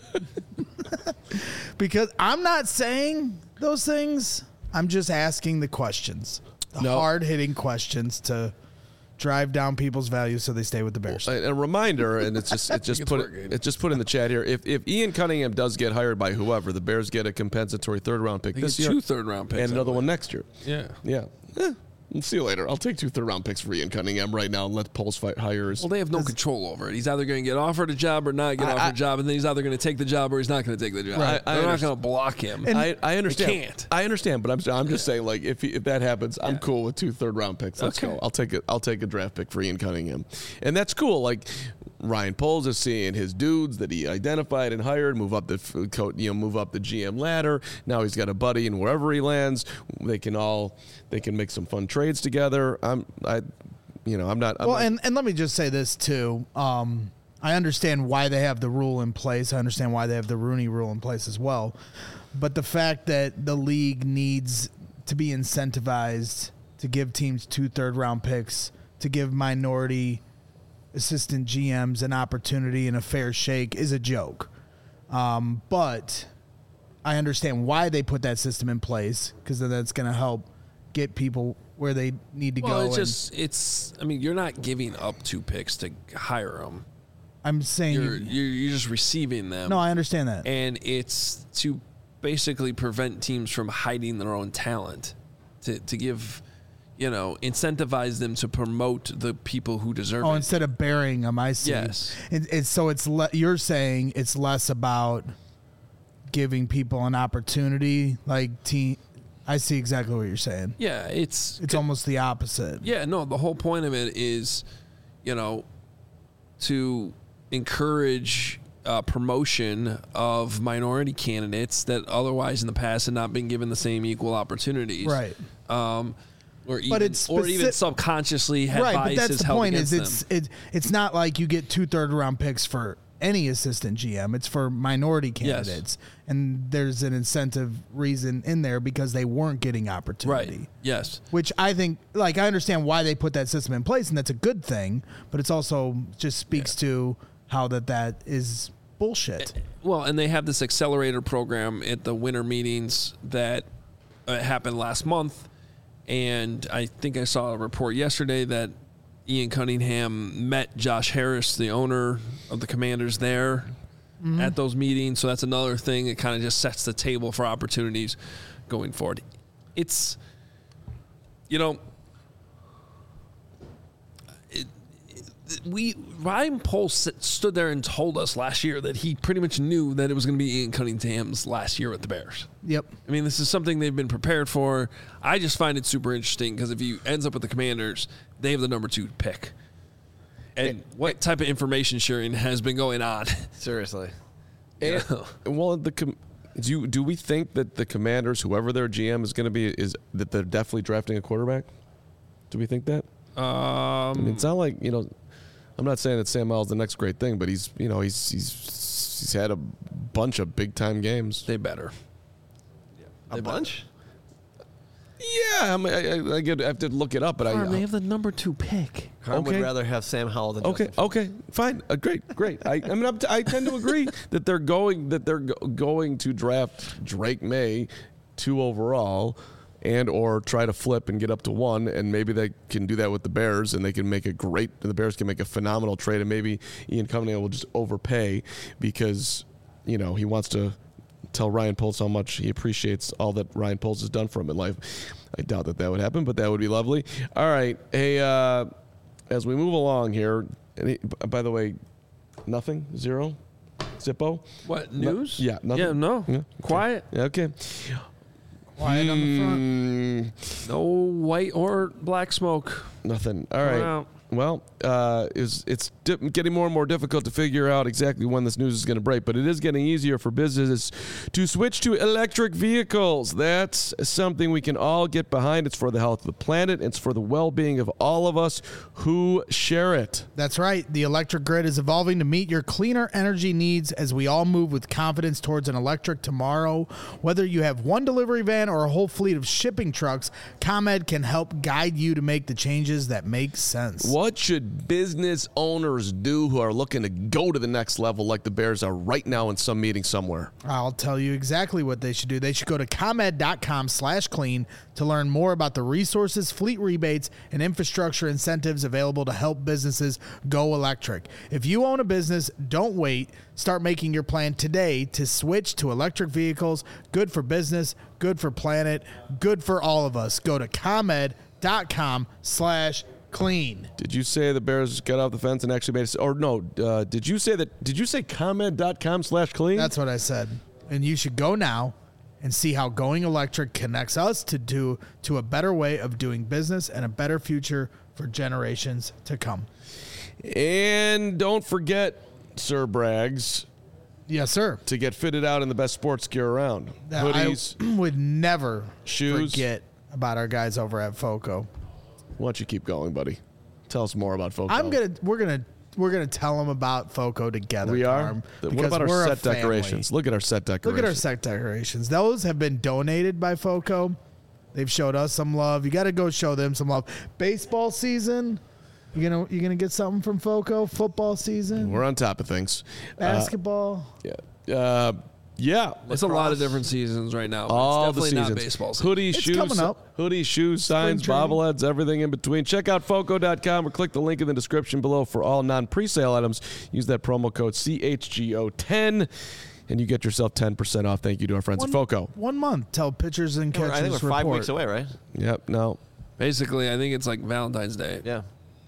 Because I'm not saying those things. I'm just asking the questions. The hard-hitting questions to drive down people's values so they stay with the Bears. A reminder, and it's just put in the chat here. If Ian Cunningham does get hired by whoever, the Bears get a compensatory third-round pick this year. 2 third-round picks. And another one next year. Yeah. We'll see you later. I'll take 2 third-round picks for Ian Cunningham right now and let Poles hire his. Well, they have no control over it. He's either going to get offered a job or not get offered a job, and then he's either going to take the job or he's not going to take the job. Right. They're not going to block him. And I understand. They can't. I understand, but I'm just saying, like, if that happens, I'm cool with 2 third-round picks. Let's go. I'll take a draft pick for Ian Cunningham, and that's cool. Like, Ryan Poles is seeing his dudes that he identified and hired move up the GM ladder. Now he's got a buddy, and wherever he lands, they can make some fun trades together. And let me just say this too. I understand why they have the rule in place. I understand why they have the Rooney Rule in place as well. But the fact that the league needs to be incentivized to give teams 2 third-round picks, to give minority assistant GMs an opportunity and a fair shake is a joke. But I understand why they put that system in place, because then that's going to help get people where they need to go. You're not giving up 2 picks to hire them. I'm saying you're just receiving them. No, I understand that. And it's to basically prevent teams from hiding their own talent, to give, incentivize them to promote the people who deserve it. Oh, instead of burying them, I see. Yes. You're saying it's less about giving people an opportunity, like team. I see exactly what you're saying. Yeah, it's almost the opposite. Yeah, no, the whole point of it is, to encourage promotion of minority candidates that otherwise in the past had not been given the same equal opportunities. Right. Or even subconsciously had biases held against them. Right, but that's the point. Is it's not like you get 2 third-round picks for any assistant GM. It's for minority candidates. Yes. And there's an incentive reason in there because they weren't getting opportunity. Right. Yes. Which I think, I understand why they put that system in place, and that's a good thing, but it's also just speaks to how that is bullshit. Well, and they have this accelerator program at the winter meetings that happened last month, and I think I saw a report yesterday that Ian Cunningham met Josh Harris, the owner of the Commanders, there at those meetings. So that's another thing that kind of just sets the table for opportunities going forward. It's, Ryan Poles stood there and told us last year that he pretty much knew that it was going to be Ian Cunningham's last year with the Bears. Yep. I mean, this is something they've been prepared for. I just find it super interesting because if he ends up with the Commanders, they have the number 2 pick. And what type of information sharing has been going on? Seriously. Well, do we think that the Commanders, whoever their GM is going to be, is that they're definitely drafting a quarterback? Do we think that? I mean, it's not like, I'm not saying that Sam Howell's the next great thing, but he's had a bunch of big time games. They better. A bunch? Yeah, I mean, I have to look it up, but they have the number 2 pick. Carm Okay. would rather have Sam Howell than Justin Fields. Okay, fine, great. I tend to agree that they're going to draft Drake May 2 overall, and or try to flip and get up to 1, and maybe they can do that with the Bears, and they can make the Bears can make a phenomenal trade, and maybe Ian Cunningham will just overpay because he wants to tell Ryan Poles how much he appreciates all that Ryan Poles has done for him in life. I doubt that would happen, but that would be lovely. All right, hey, as we move along here, by the way, nothing, zero, Zippo. What, news? Yeah, nothing. Yeah, no. Yeah, okay. Quiet. Yeah, okay. Quiet on the front. No white or black smoke. Nothing. All Going right. out. Well, it's getting more and more difficult to figure out exactly when this news is going to break, but it is getting easier for businesses to switch to electric vehicles. That's something we can all get behind. It's for the health of the planet. It's for the well-being of all of us who share it. That's right. The electric grid is evolving to meet your cleaner energy needs as we all move with confidence towards an electric tomorrow. Whether you have one delivery van or a whole fleet of shipping trucks, ComEd can help guide you to make the changes that make sense. What should business owners do who are looking to go to the next level like the Bears are right now in some meeting somewhere? I'll tell you exactly what they should do. They should go to ComEd.com/clean to learn more about the resources, fleet rebates, and infrastructure incentives available to help businesses go electric. If you own a business, don't wait. Start making your plan today to switch to electric vehicles. Good for business, good for planet, good for all of us. Go to ComEd.com/clean. Did you say the Bears got off the fence and actually made it? Or no, did you say ComEd.com/clean? That's what I said. And you should go now and see how going electric connects us to a better way of doing business and a better future for generations to come. And don't forget, Sir Braggs, Yes, sir. to get fitted out in the best sports gear around. Hoodies. I would never shoes. forget about our guys over at FOCO. Why don't you keep going, buddy? Tell us more about Foco. We're gonna tell them about FOCO together. We are. Carm, What because about our we're a set decorations? family. Look at our set decorations. Look at our set decorations. Those have been donated by FOCO. They've showed us some love. You got to go show them some love. Baseball season. You gonna get something from FOCO? Football season. We're on top of things. Basketball. Yeah. It's a lot of different seasons right now. But All it's definitely the seasons. not baseball season. Hoodies, It's shoes, coming up. Hoodies, shoes, signs, training. bobbleheads, everything in between. Check out Foco.com or click the link in the description below for all non-presale items. Use that promo code CHGO10 and you get yourself 10% off. Thank you to our friends at Foco. 1 month till pitchers and catchers I think we're 5 report. weeks away, right? Yep. No. Basically, I think it's like Valentine's Day. Yeah.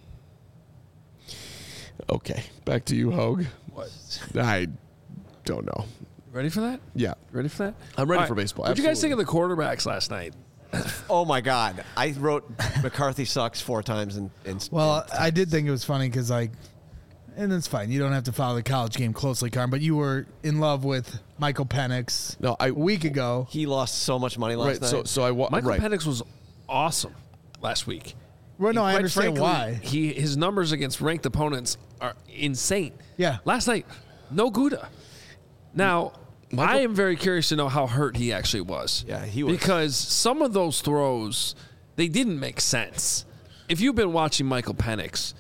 Okay. Back to you, Hogue. What? I don't know. Ready for that? Yeah. Ready for that? I'm ready All for baseball. What did you guys think Absolutely. of the quarterbacks last night? Oh my God! I wrote McCarthy sucks 4 times Well, I did think it was funny because, and it's fine. You don't have to follow the college game closely, Carm, but you were in love with Michael Penix No, a week ago. he lost so much money last Right. night. So I Michael right. Penix was awesome last week. Well, no, I Quite understand frankly, why. His numbers against ranked opponents are insane. Yeah. Last night, no Gouda. Now, I am very curious to know how hurt he actually was. Yeah, he was. Because some of those throws, they didn't make sense. If you've been watching Michael Penix,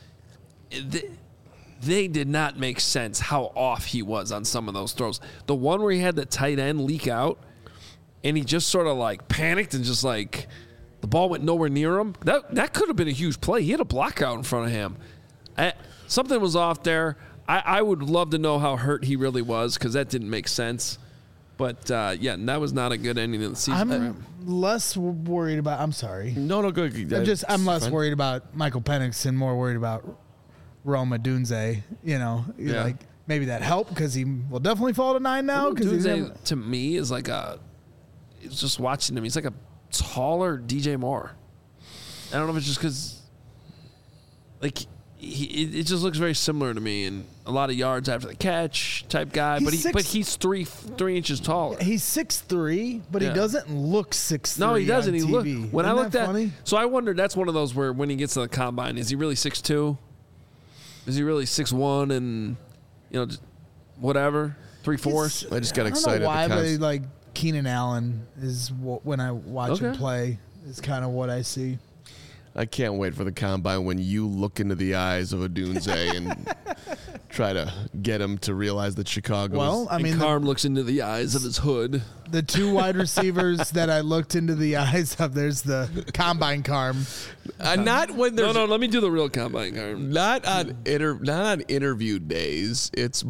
they did not make sense how off he was on some of those throws. The one where he had the tight end leak out, and he just sort of like panicked and just like the ball went nowhere near him. That could have been a huge play. He had a block out in front of him. Something was off there. I would love to know how hurt he really was because that didn't make sense. But, that was not a good ending of the season for I'm him. less worried about. I'm sorry. No, good. I'm less worried about Michael Penix and more worried about Roma Dunze. Like maybe that helped because he will definitely fall to 9 now. Dunze, to me, is like it's just watching him. He's like a taller DJ Moore. I don't know if it's just because, like, it just looks very similar to me, and a lot of yards after the catch type guy. He's 3 inches taller. He's 6'3", but Yeah. he doesn't look 6'3". No, he doesn't. On He TV. look when I Isn't looked that at. funny? So I wondered. That's one of those where when he gets to the combine, is he really 6'2"? Is he really 6'1" and just whatever 3/4? I just got I don't excited. know why, at the but cons- like Keenan Allen is when I watch him Okay. play is kind of what I see. I can't wait for the combine when you look into the eyes of Odunze and try to get him to realize that Chicago. Well, I mean, Carm looks into the eyes of his hood. the 2 wide receivers that I looked into the eyes of, there's the combine Carm. not when there's No, let me do the real combine, Carm. not on interview days. It's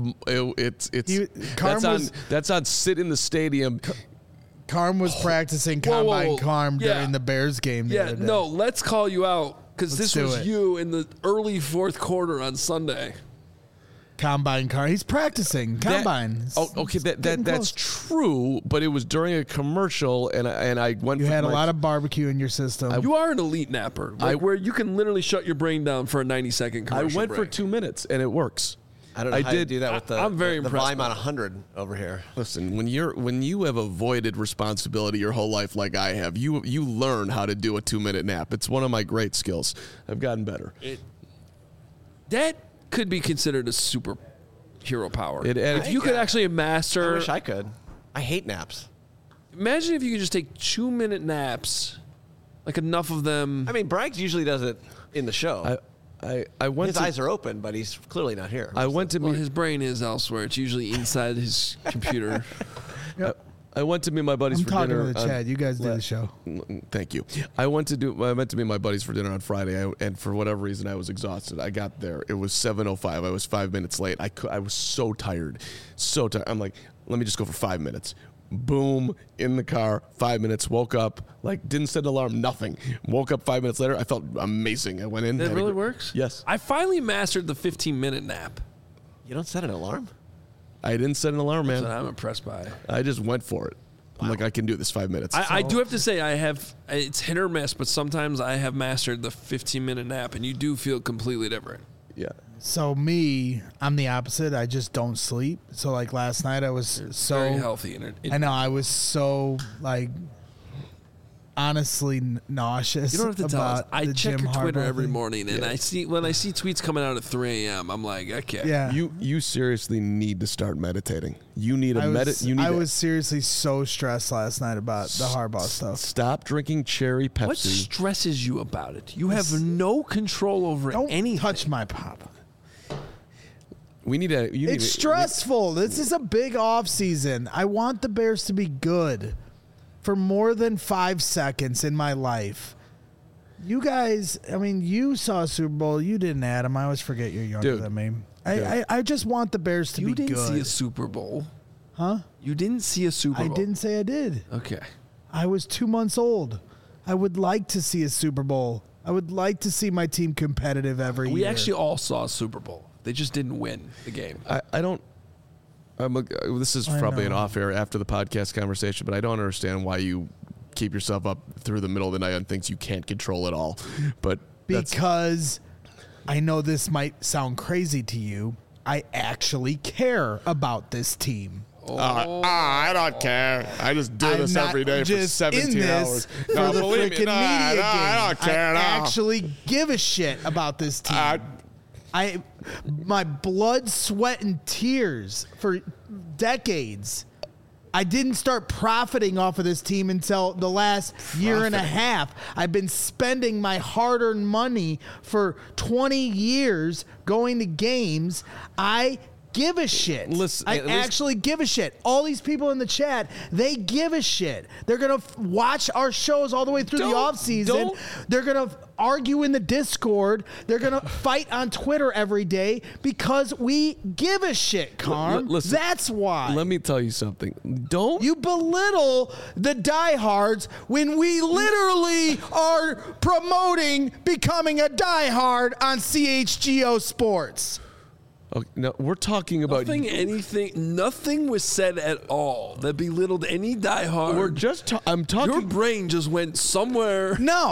Carm that's on sit in the stadium. Carm was practicing Whoa, whoa, combine whoa. Carm Yeah. during the Bears game. The Yeah, other day. no, let's call you out because Let's this do was it. you in the early fourth quarter on Sunday. Combine Carm. He's practicing combine. Okay, getting that's close. true, but it was during a commercial, and I went. You for had a my- lot of barbecue in your system. You are an elite napper, where you can literally shut your brain down for a 90-second I commercial went for break. 2 minutes, and it works. I don't know I how did- you do that with the, I'm very the impressed volume by on that. 100 over here. Listen, when you have avoided responsibility your whole life like I have, you learn how to do a 2-minute nap. It's one of my great skills. I've gotten better. That could be considered a superhero power. If you could actually I master. wish I could. I hate naps. Imagine if you could just take 2-minute naps, like enough of them. I mean, Braggs usually does it in the show. I went His to eyes are open, but he's clearly not here. I went to Well, meet his brain is elsewhere. It's usually inside his computer. I went to meet my buddies I'm for talking dinner. to the on- Chad. You guys do the show. Thank you. I meant to meet my buddies for dinner on Friday, and for whatever reason, I was exhausted. I got there. It was 7:05. I was 5 minutes late. I was so tired. I'm like, let me just go for 5 minutes. Boom, in the car, 5 minutes, woke up, didn't set an alarm, nothing. Woke up 5 minutes later. I felt amazing. I went in. That had a really gr- works? Yes. I finally mastered the 15-minute nap. You don't set an alarm? I didn't set an alarm, man. That I'm impressed by. I just went for it. I'm like, I can do this 5 minutes. I do have to say, it's hit or miss, but sometimes I have mastered the 15-minute nap, and you do feel completely different. yeah. So I'm the opposite. I just don't sleep. So like last night, I was Very so healthy. And I know I was so honestly nauseous. you don't have to tell us. about I the check Jim your Twitter Harbaugh every thing. morning, and when I see tweets coming out at 3 a.m., I'm like, okay. Yeah, You seriously need to start meditating. You need a I was seriously so stressed last night about the Harbaugh stuff. Stop drinking cherry Pepsi. What stresses you about it? You have no control over Don't anything. touch my pop. We need a. You need It's a- stressful. This is a big off season. I want the Bears to be good for more than 5 seconds in my life. You guys, I mean, you saw a Super Bowl. You didn't, Adam. I always forget you're younger Dude. than me. I just want the Bears to You be didn't good. see a Super Bowl. Huh? You didn't see a Super I Bowl. didn't say I did. Okay. I was 2 months old. I would like to see a Super Bowl. I would like to see my team competitive every year. We actually all saw a Super Bowl. They just didn't win the game. I don't. This is I probably an know. off air after the podcast conversation, but I don't understand why you keep yourself up through the middle of the night on things you can't control at all. But that's, Because I know this might sound crazy to you. I actually care about this team. I don't care. I just do I'm this not every day for just 17 in this hours. for No, the believe me, freaking no, media game. I don't care. I no. actually give a shit about this team. My blood, sweat, and tears for decades. I didn't start profiting off of this team until the last year and a half. I've been spending my hard-earned money for 20 years going to games. I give a shit. Listen, I at least- actually give a shit. All these people in the chat, they give a shit. They're going to watch our shows all the way through the offseason. don't- They're going to argue in the Discord. They're going to fight on Twitter every day because we give a shit, Carm. listen, That's why. Let me tell you something. Don't You belittle the diehards when we literally are promoting becoming a diehard on CHGO Sports. Okay, no, we're talking about. Nothing was said at all that belittled any diehard. I'm talking. Your brain just went somewhere. No.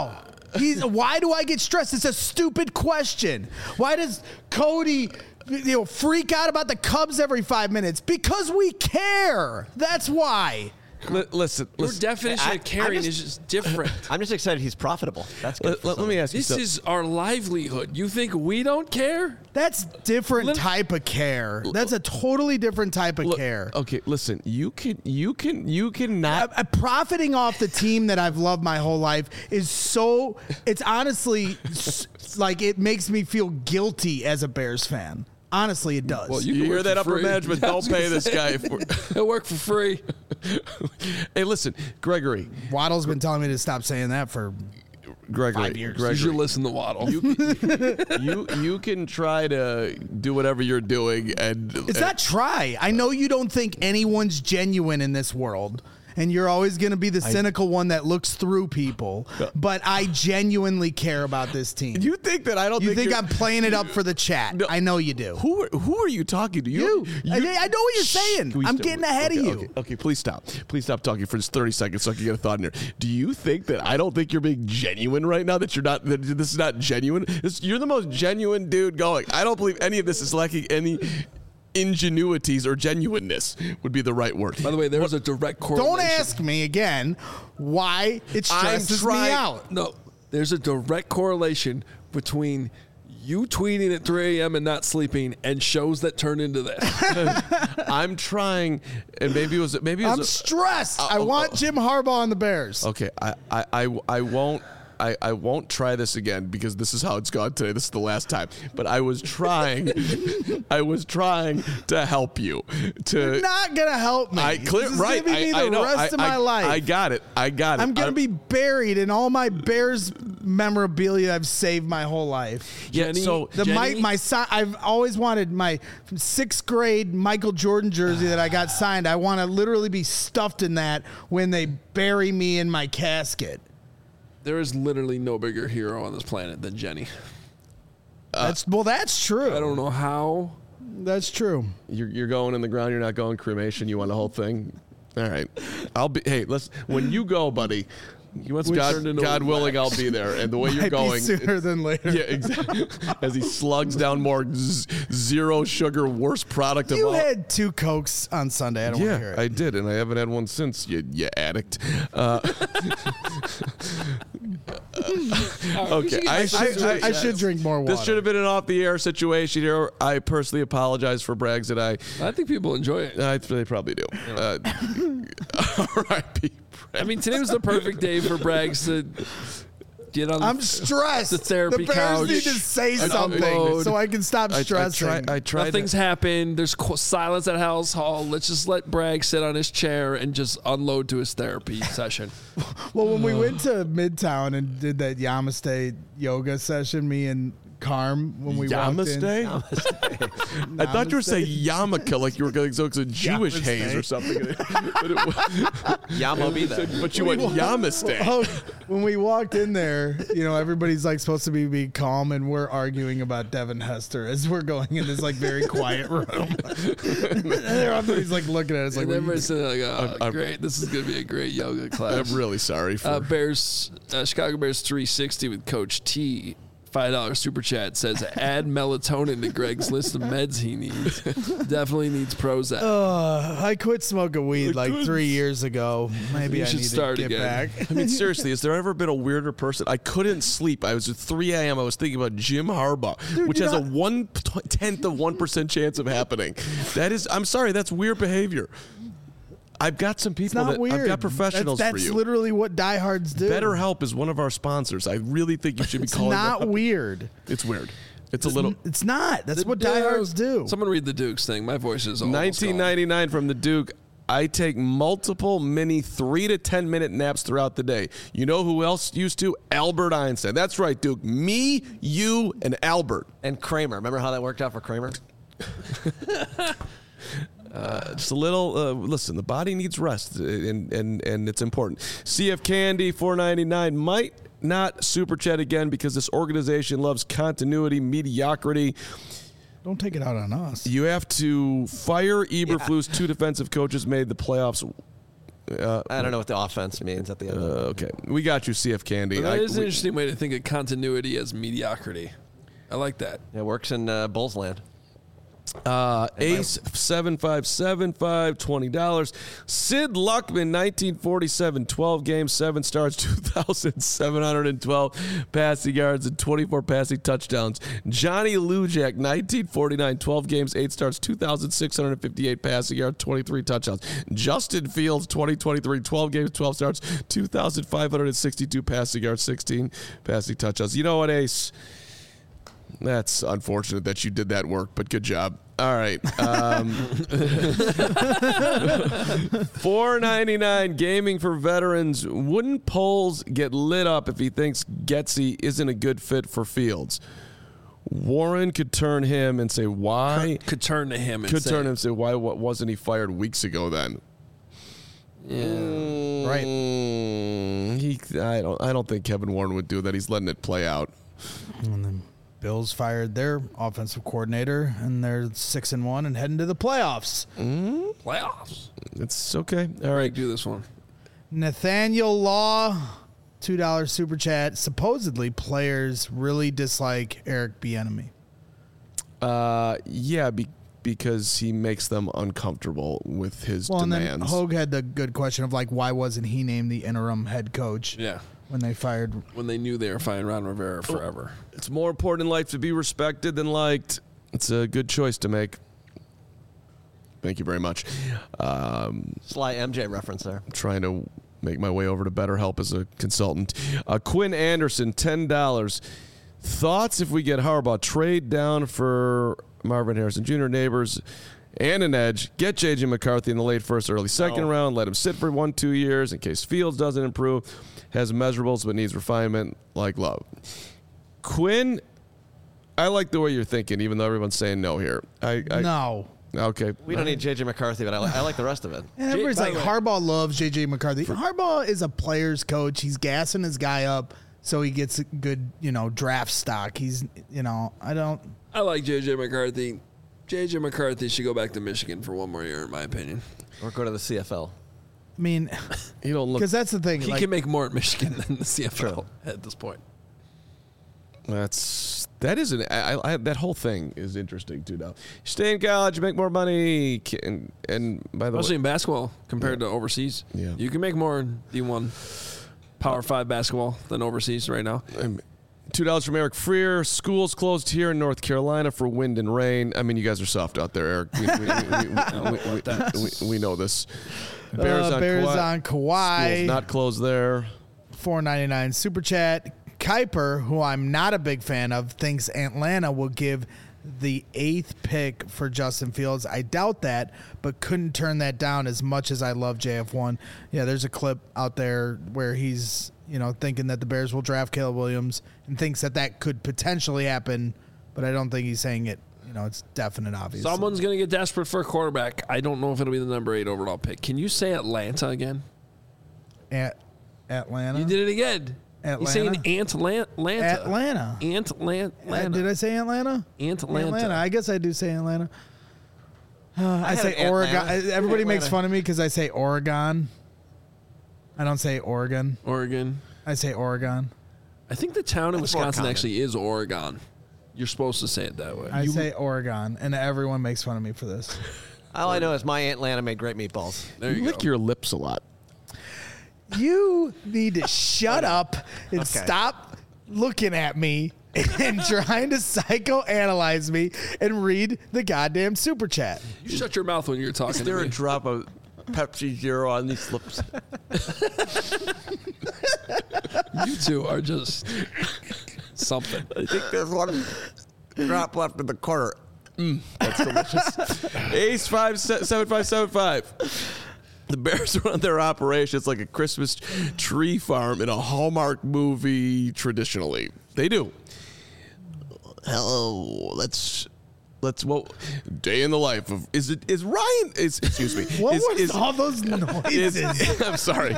Why do I get stressed? It's a stupid question. Why does Cody freak out about the Cubs every 5 minutes? Because we care. That's why. Listen. Your definition of caring is just different. I'm just excited he's profitable. That's good. Let me ask you This something. is our livelihood. You think we don't care? That's different type of care. That's a totally different type of care. Okay, listen. You can not. Profiting off the team that I've loved my whole life is so. It's honestly like it makes me feel guilty as a Bears fan. Honestly, it does. Well, You can hear work that, for upper free. management? I Don't was gonna pay this say, guy. He'll work for free. Hey, listen, Gregory. Waddle's been telling me to stop saying that for Gregory. 5 years. You should Gregory. listen to Waddle. You can try to do whatever you're doing, and It's not try. I know you don't think anyone's genuine in this world, and you're always going to be the cynical one that looks through people. But I genuinely care about this team. You think that I don't? You think you're- I'm playing it up for the chat? No. I know you do. Who are you talking to? You. I know what you're saying. Can we I'm stop? getting ahead of Okay, you. Okay, please stop. Please stop talking for just 30 seconds so I can get a thought in here. Do you think that I don't think you're being genuine right now? That you're not? That this is not genuine? You're the most genuine dude going. I don't believe any of this is lacking any ingenuities or genuineness would be the right word. By the way, there was a direct correlation. Don't ask me again why it stresses me trying- out. No, there's a direct correlation between you tweeting at 3 a.m. and not sleeping and shows that turn into this. I'm trying, and maybe it was. I'm stressed. I want Jim Harbaugh on the Bears. Okay, I won't. I won't try this again because this is how it's gone today. This is the last time. But I was trying to help you. You're not gonna help me. This is right. giving me the know. rest of my life. I got it. I'm gonna be buried in all my Bears memorabilia I've saved my whole life. Yeah, Jenny, so My son. I've always wanted my 6th grade Michael Jordan jersey that I got signed. I want to literally be stuffed in that when they bury me in my casket. There is literally no bigger hero on this planet than Jenny. That's true. I don't know how. That's true. You're going in the ground. You're not going cremation. You want the whole thing. All right. I'll be. Hey, when you go, buddy. God willing, I'll be there. And the way you're Might be going, sooner than later. yeah, exactly. As he slugs down more zero sugar, worst product of You all. had 2 Cokes on Sunday. I don't want to hear Yeah, it. I did, and I haven't had one since. You addict. Okay, I should drink more water. This should have been an off-the-air situation here. I personally apologize for Braggs that I think people enjoy it. they probably do. R.I.P. I mean, today was the perfect day for Braggs to get on I'm stressed. the therapy the Bears couch. need to say and something upload. so I can stop stressing. I tried. Nothing's happened. There's silence at House Hall. Let's just let Bragg sit on his chair and just unload to his therapy session. Well, when we went to Midtown and did that Yamaste yoga session, me and Carm, when we walked in. Namaste? I thought you were saying yarmulke, like you were going so it's a Jewish Namaste. haze or something. But Yamo be there. but you went Yamaste. Oh, when we walked in there, everybody's like supposed to be calm, and we're arguing about Devin Hester as we're going in this like very quiet room. And everybody's like looking at us like, And everybody's saying, like, I'm- great. This is going to be a great yoga class. I'm really sorry for. Chicago Bears 360 with Coach T. $5 super chat says, add melatonin to Greg's list of meds he needs. Definitely needs Prozac. I quit smoking weed like 3 years ago. Maybe You I should need start to get again. back. I mean, seriously, has there ever been a weirder person? I couldn't sleep. I was at 3 a.m. I was thinking about Jim Harbaugh, which has a 1/10 of 1% chance of happening. I'm sorry, that's weird behavior. I've got some It's people not weird. I've got professionals that's for you. literally what diehards do. BetterHelp is one of our sponsors. I really think you should be It's calling not them up. weird. It's weird. It's a little. It's not. That's what The diehards do. Someone read the Dukes thing. My voice is almost 1999 from the Duke. I take multiple mini 3 to 10 minute naps throughout the day. You know who else used to? Albert Einstein. That's right, Duke. Me, you, and Albert. And Kramer. Remember how that worked out for Kramer? Just a little. Listen, the body needs rest, and it's important. CF Candy 4.99 might not super chat again because this organization loves continuity, mediocrity. Don't take it out on us. You have to fire Eberflus. 2 defensive coaches made the playoffs. I don't know what the offense means at the end. Okay, we got you, CF Candy. That is an interesting way to think of continuity as mediocrity. I like that. It works in Bulls land. Ace 7575 $20. Sid Luckman 1947 12 games 7 starts 2,712 passing yards and 24 passing touchdowns. Johnny Lujak 1949 12 games 8 starts 2,658 passing yards 23 touchdowns. Justin Fields 2023 12 games 12 starts 2,562 passing yards 16 passing touchdowns. You know what, Ace? That's unfortunate that you did that work, but good job. All right. $4.99 gaming for veterans. Wouldn't Poles get lit up if he thinks Getsy isn't a good fit for Fields? Warren could turn him and say why. Could turn to him and could say, turn him and say why wasn't he fired weeks ago then? Yeah. Right. I don't think Kevin Warren would do that. He's letting it play out. And then Bills fired their offensive coordinator, and they're 6-1 and heading to the playoffs. Playoffs. It's okay. All right. Do this one. Nathaniel Law, $2 super chat. Supposedly, players really dislike Eric Bieniemy. Yeah, because he makes them uncomfortable with his And then demands. Hogue had the good question of, like, why wasn't he named the interim head coach Yeah. when they fired? When they knew they were firing Ron Rivera forever. It's more important in life to be respected than liked. It's a good choice to make. Thank you very much. Sly MJ reference there. I'm trying to make my way over to BetterHelp as a consultant. Quinn Anderson, $10. Thoughts if we get Harbaugh? Trade down for Marvin Harrison Jr., Neighbors, and an edge. Get J.J. McCarthy in the late first, early second round. Let him sit for 1-2 years in case Fields doesn't improve. Has measurables but needs refinement like Love. Quinn, I like the way you're thinking, even though everyone's saying no here. No. Okay. We don't need J.J. McCarthy, but I like the rest of it. And everybody's by like, the way- Harbaugh loves J.J. McCarthy. Harbaugh is a player's coach. He's gassing his guy up so he gets good, draft stock. He's, I like J.J. McCarthy. J.J. McCarthy should go back to Michigan for one more year, in my opinion. Or go to the CFL. I mean, You don't look. because that's the thing. He like, can make more at Michigan than the CFL at this point. That whole thing is interesting too. Now, stay in college, make more money, and by the Especially way, in basketball compared to overseas. Yeah. You can make more in D1 Power 5 basketball than overseas right now. $2 from Eric Freer. Schools closed here in North Carolina for wind and rain. I mean, you guys are soft out there, Eric. We know this. Bears on Kawhi. Schools not closed there. $4.99 super chat. Kuiper, who I'm not a big fan of, thinks Atlanta will give the 8th pick for Justin Fields. I doubt that, but couldn't turn that down as much as I love JF1. Yeah, there's a clip out there where he's, thinking that the Bears will draft Caleb Williams and thinks that could potentially happen, but I don't think he's saying it. It's definite, obviously. Someone's going to get desperate for a quarterback. I don't know if it'll be the number 8 overall pick. Can you say Atlanta again? Atlanta? You did it again. Atlanta? You're saying Atlanta. Atlanta. Atlanta. Did I say Atlanta? Atlanta. I guess I do say Atlanta. I say had Oregon. Atlanta. Everybody makes Atlanta. fun of me because I say Oregon. I don't say Oregon. Oregon. I say Oregon. I think the town in That's more Wisconsin common. actually is Oregon. You're supposed to say it that way. I say Oregon, and everyone makes fun of me for this. All I know is my Atlanta made great meatballs. There you Lick go. your lips a lot. You need to shut up and Okay. stop looking at me and trying to psychoanalyze me and read the goddamn super chat. You shut your mouth when you're talking to me. drop of Pepsi Zero on these lips? You two are just something. I think there's one drop left in the corner. That's delicious. Ace 7575. The Bears run their operation. It's like a Christmas tree farm in a Hallmark movie traditionally. They do. Hello, let's what day in the life of excuse me. What is, was all those noises? I'm sorry.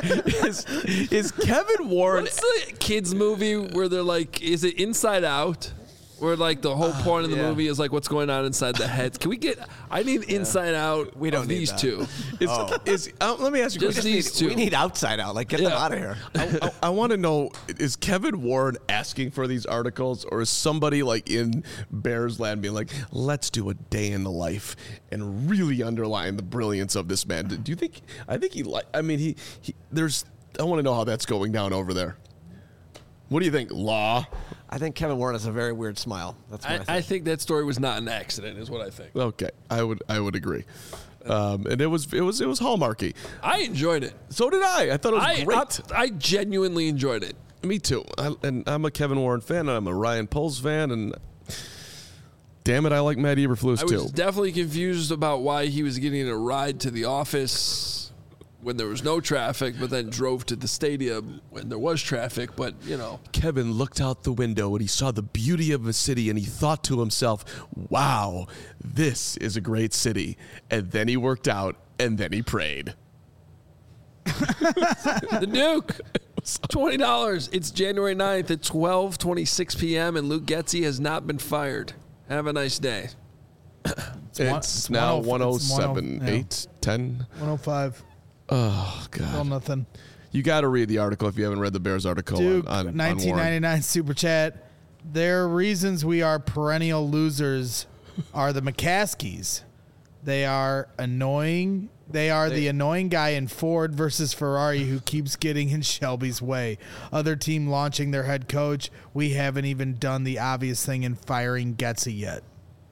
Is Kevin Warren What's the kids movie where they're like, is it Inside Out? Where like the whole point of the movie is like what's going on inside the heads. Can we get? I need Inside Out. We don't of need these that. two. Let me ask you a Just question. these two. We need Outside Out. Like, get them out of here. I want to know, is Kevin Warren asking for these articles, or is somebody like in Bears land being like, let's do a day in the life and really underline the brilliance of this man? Do you think, I think he I want to know how that's going down over there. What do you think, Law? I think Kevin Warren has a very weird smile. That's what I think that story was not an accident, is what I think. Okay, I would agree. And it was hallmarky. I enjoyed it. So did I. I thought it was great. I genuinely enjoyed it. Me too. And I'm a Kevin Warren fan, and I'm a Ryan Poles fan, and damn it, I like Matt Eberflus I too. was definitely confused about why he was getting a ride to the office when there was no traffic, but then drove to the stadium when there was traffic. But, you know. Kevin looked out the window and he saw the beauty of a city, and he thought to himself, wow, this is a great city. And then he worked out, and then he prayed. The Duke, $20. It's January 9th at 12:26 p.m., and Luke Getzey has not been fired. Have a nice day. It's now 107, yeah. 8, 10. 105. Oh, God. Still nothing. You got to read the article if you haven't read the Bears article Duke, on Warren. 1999 Super Chat. Their reasons we are perennial losers are the McCaskies. They are annoying. They are the annoying guy in Ford versus Ferrari who keeps getting in Shelby's way. Other team launching their head coach. We haven't even done the obvious thing in firing Getzey yet.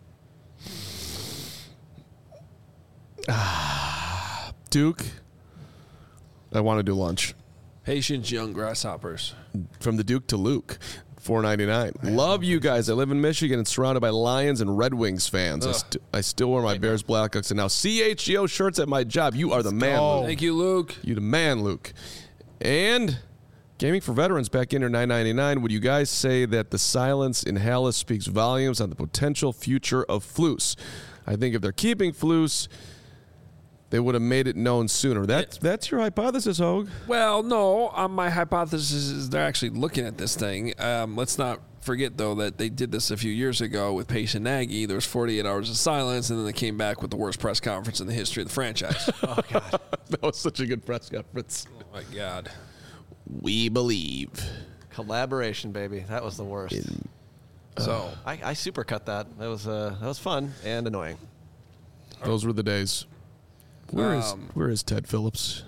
Duke, I want to do lunch. Patience, young grasshoppers. From the Duke to Luke, $4.99. Love you guys. I live in Michigan and surrounded by Lions and Red Wings fans. I still wear my Bears, Blackhawks, and now CHGO shirts at my job. You are the man, go. Luke. Thank you, Luke. You the man, Luke. And Gaming for Veterans back in here, $9.99. Would you guys say that the silence in Halas speaks volumes on the potential future of Flus? I think if they're keeping Flus, they would have made it known sooner. That's your hypothesis, Hogue. Well, no. My hypothesis is they're actually looking at this thing. Let's not forget, though, that they did this a few years ago with Pace and Nagy. There was 48 hours of silence, and then they came back with the worst press conference in the history of the franchise. Oh, God. That was such a good press conference. Oh, my God. We believe. Collaboration, baby. That was the worst. So I supercut that. That was fun and annoying. Those were the days. Where is Ted Phillips?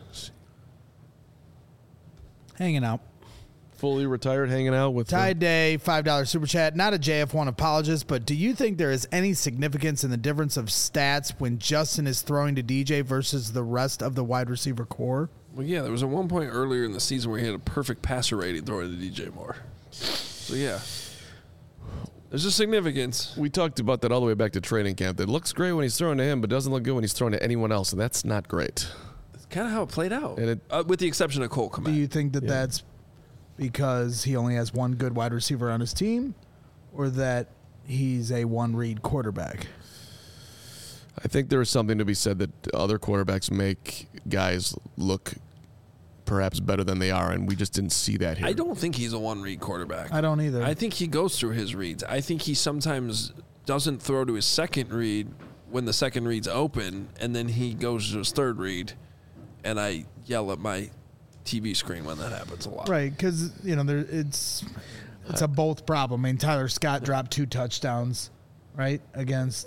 Hanging out. Fully retired, hanging out with Ty Day, $5 Super Chat. Not a JF1 apologist, but do you think there is any significance in the difference of stats when Justin is throwing to DJ versus the rest of the wide receiver core? Well, yeah, there was at one point earlier in the season where he had a perfect passer rating throwing to DJ Moore. So, yeah. There's a significance. We talked about that all the way back to training camp. That looks great when he's throwing to him, but doesn't look good when he's throwing to anyone else, and that's not great. It's kind of how it played out, And with the exception of Cole Kmet. Do you think that that's because he only has one good wide receiver on his team, or that he's a one-read quarterback? I think there is something to be said that other quarterbacks make guys look perhaps better than they are, and we just didn't see that here. I don't think he's a one-read quarterback. I don't either. I think he goes through his reads. I think he sometimes doesn't throw to his second read when the second read's open, and then he goes to his third read, and I yell at my TV screen when that happens a lot. Right, because it's a both problem. I mean, Tyler Scott dropped 2 touchdowns, right, against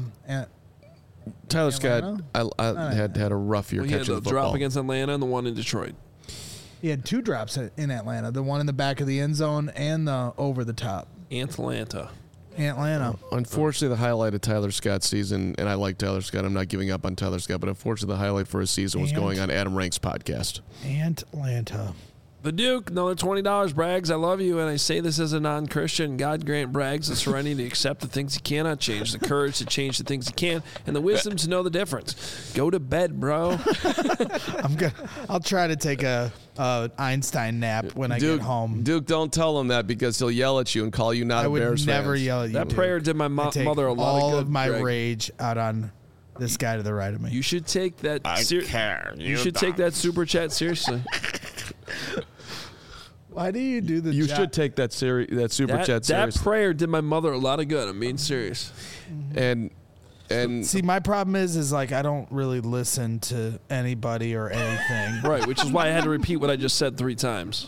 Tyler Scott Atlanta? had a rough year Well, he had catching the the football. drop against Atlanta and the one in Detroit. He had 2 drops in Atlanta, the one in the back of the end zone and the over the top. Atlanta. Unfortunately, the highlight of Tyler Scott's season, and I like Tyler Scott, I'm not giving up on Tyler Scott, but unfortunately the highlight for his season was going on Adam Rank's podcast. Atlanta. The Duke, another $20. Braggs, I love you, and I say this as a non-Christian. God grant Braggs the serenity to accept the things he cannot change, the courage to change the things he can, and the wisdom to know the difference. Go to bed, bro. I'll try to take a Einstein nap when I get home. Duke, don't tell him that because he'll yell at you and call you not I a would Bears never fan. yell at you. That prayer did my I take mother a lot all of good. of my Greg. rage out on this guy to the right of me. You should take that. I care. You should take that super chat seriously. Why do you do the You job? should take that super chat That serious. prayer did my mother a lot of good. I'm being serious. And See, my problem is like I don't really listen to anybody or anything. Right, which is why I had to repeat what I just said 3 times.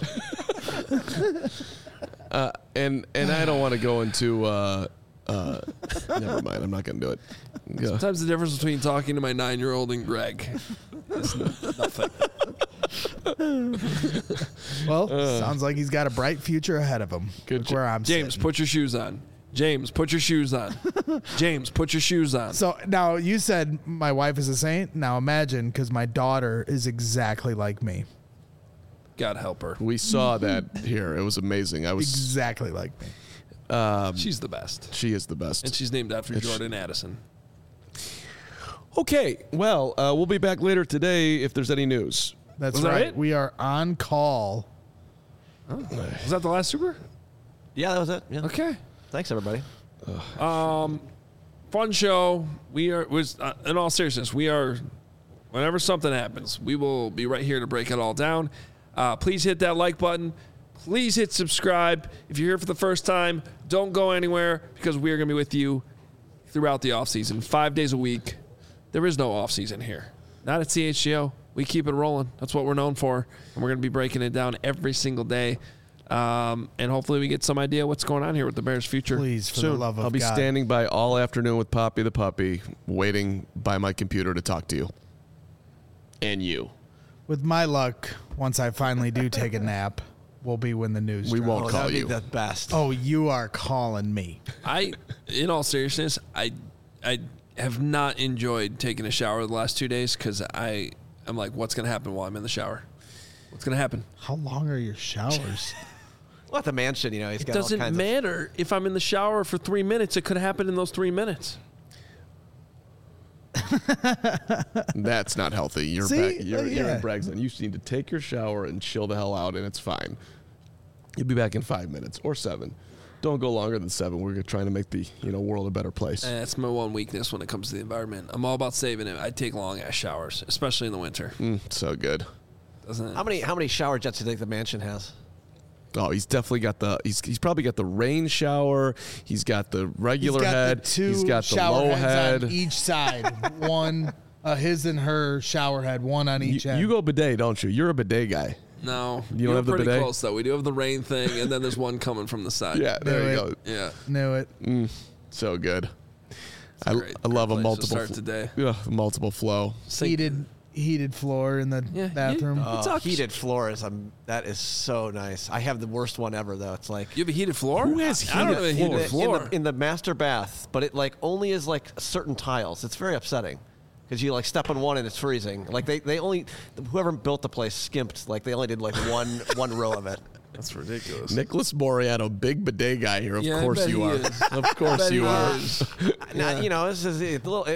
and I don't want to go into. Never mind. I'm not going to do it. Yeah. Sometimes the difference between talking to my 9-year-old and Greg is nothing. Well, sounds like he's got a bright future ahead of him. Good Look where I'm James, sitting. put your shoes on. James, put your shoes on. James, put your shoes on. So now you said my wife is a saint. Now imagine, because my daughter is exactly like me. God help her. We saw that here. It was amazing. Exactly like me. She's the best. She is the best. And she's named after It's- Jordan Addison. Okay. Well, we'll be back later today if there's any news. That's Was that right. it? We are on call. Was that the last Super? Yeah, that was it. Yeah. Okay. Thanks, everybody. Fun show. In all seriousness, whenever something happens, we will be right here to break it all down. Please hit that like button. Please hit subscribe. If you're here for the first time, don't go anywhere because we are going to be with you throughout the offseason, 5 days a week. There is no offseason here. Not at CHGO. We keep it rolling. That's what we're known for. And we're going to be breaking it down every single day. And hopefully we get some idea what's going on here with the Bears' future. Please, for the Soon. love of I'll be God. standing by all afternoon with Poppy the puppy, waiting by my computer to talk to you. And you. With my luck, once I finally do take a nap, we'll be when the news We drops. won't Oh, call that'd you. be the best. Oh, you are calling me. In all seriousness, I have not enjoyed taking a shower the last 2 days because I'm like, what's going to happen while I'm in the shower? What's going to happen? How long are your showers? Well, at the mansion, he's It got all doesn't kinds matter if I'm in the shower for 3 minutes. It could happen in those 3 minutes. That's not healthy. You're See? back. You're Yeah. in Braxton. You just need to take your shower and chill the hell out, and it's fine. You'll be back in 5 minutes or 7. Don't go longer than 7. We're trying to make the world a better place. That's my one weakness when it comes to the environment. I'm all about saving it. I take long ass showers, especially in the winter. So good. Doesn't it? How many shower jets do you think the mansion has? Oh, he's definitely got he's probably got the rain shower. He's got the regular He's got head. the two he's got the shower low heads head. on each side. One, his and her shower head, one on each end. You go bidet, don't you? You're a bidet guy. No, You don't have the pretty bidet? close though. We do have the rain thing, and then there's one coming from the side. Yeah, there Knew you it. go. yeah. Knew it. So good. I Great- love a great place to multiple start today. multiple flow. Heated floor in the Yeah, bathroom. It's all- Heated floors. That is so nice. I have the worst one ever, though. It's like You have a heated floor? Who has I don't have a heated heated floor? floor. in the master bath, but it like only is like certain tiles. It's very upsetting because you like step on one and it's freezing. Like they only whoever built the place skimped. Like they only did like one row of it. That's ridiculous. Nicholas Moriano, big bidet guy here. Of Yeah, I course bet you he are. is. Of course Bet you he are. is. Now, this is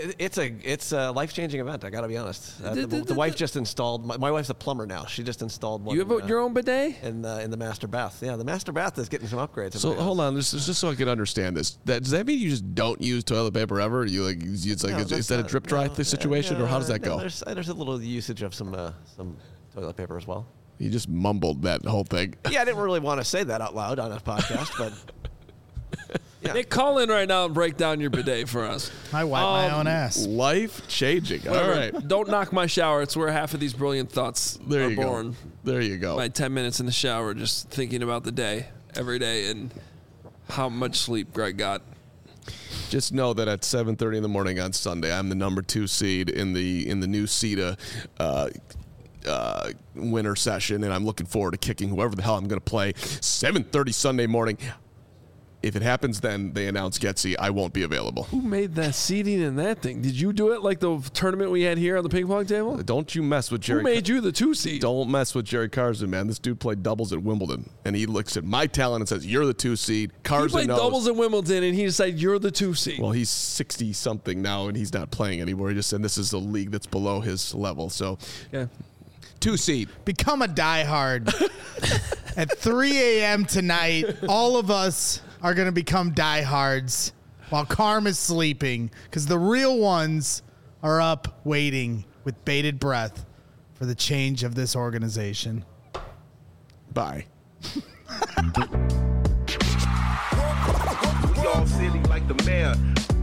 it's a life changing event. I got to be honest. The wife just installed. My wife's a plumber now. She just installed one. You have your own bidet? in the master bath. Yeah, the master bath is getting some upgrades. in So my house. hold on, just so I can understand this. Does that mean you just don't use toilet paper ever? You like it's like No, is that's that a not- drip dry no, situation, or how does that no, go? There's a little usage of some toilet paper as well. You just mumbled that whole thing. Yeah, I didn't really want to say that out loud on a podcast, but yeah. Nick, call in right now and break down your bidet for us. I wipe my own ass. Life changing. All Whatever. right, Don't knock my shower. It's where half of these brilliant thoughts there are you born. go. There you go. My 10 minutes in the shower just thinking about the day every day and how much sleep Greg got. Just know that at 7:30 in the morning on Sunday, I'm the number 2 seed in the new CETA winter session, and I'm looking forward to kicking whoever the hell I'm going to play. 7:30 Sunday morning. If it happens, then they announce Getsy. I won't be available. Who made that seating in that thing? Did you do it like the tournament we had here on the ping pong table? Don't you mess with Jerry. Who made you the 2 seed? Don't mess with Jerry Carson, man. This dude played doubles at Wimbledon, and he looks at my talent and says, "You're the 2 seed." He Carson played knows. doubles in Wimbledon, and he decided you're the 2 seed. Well, he's 60 something now, and he's not playing anymore. He just said this is a league that's below his level. So, yeah. 2 seed. Become a diehard. At 3 a.m. tonight, all of us are going to become diehards while Carm is sleeping because the real ones are up waiting with bated breath for the change of this organization. Bye. We all silly like the mayor.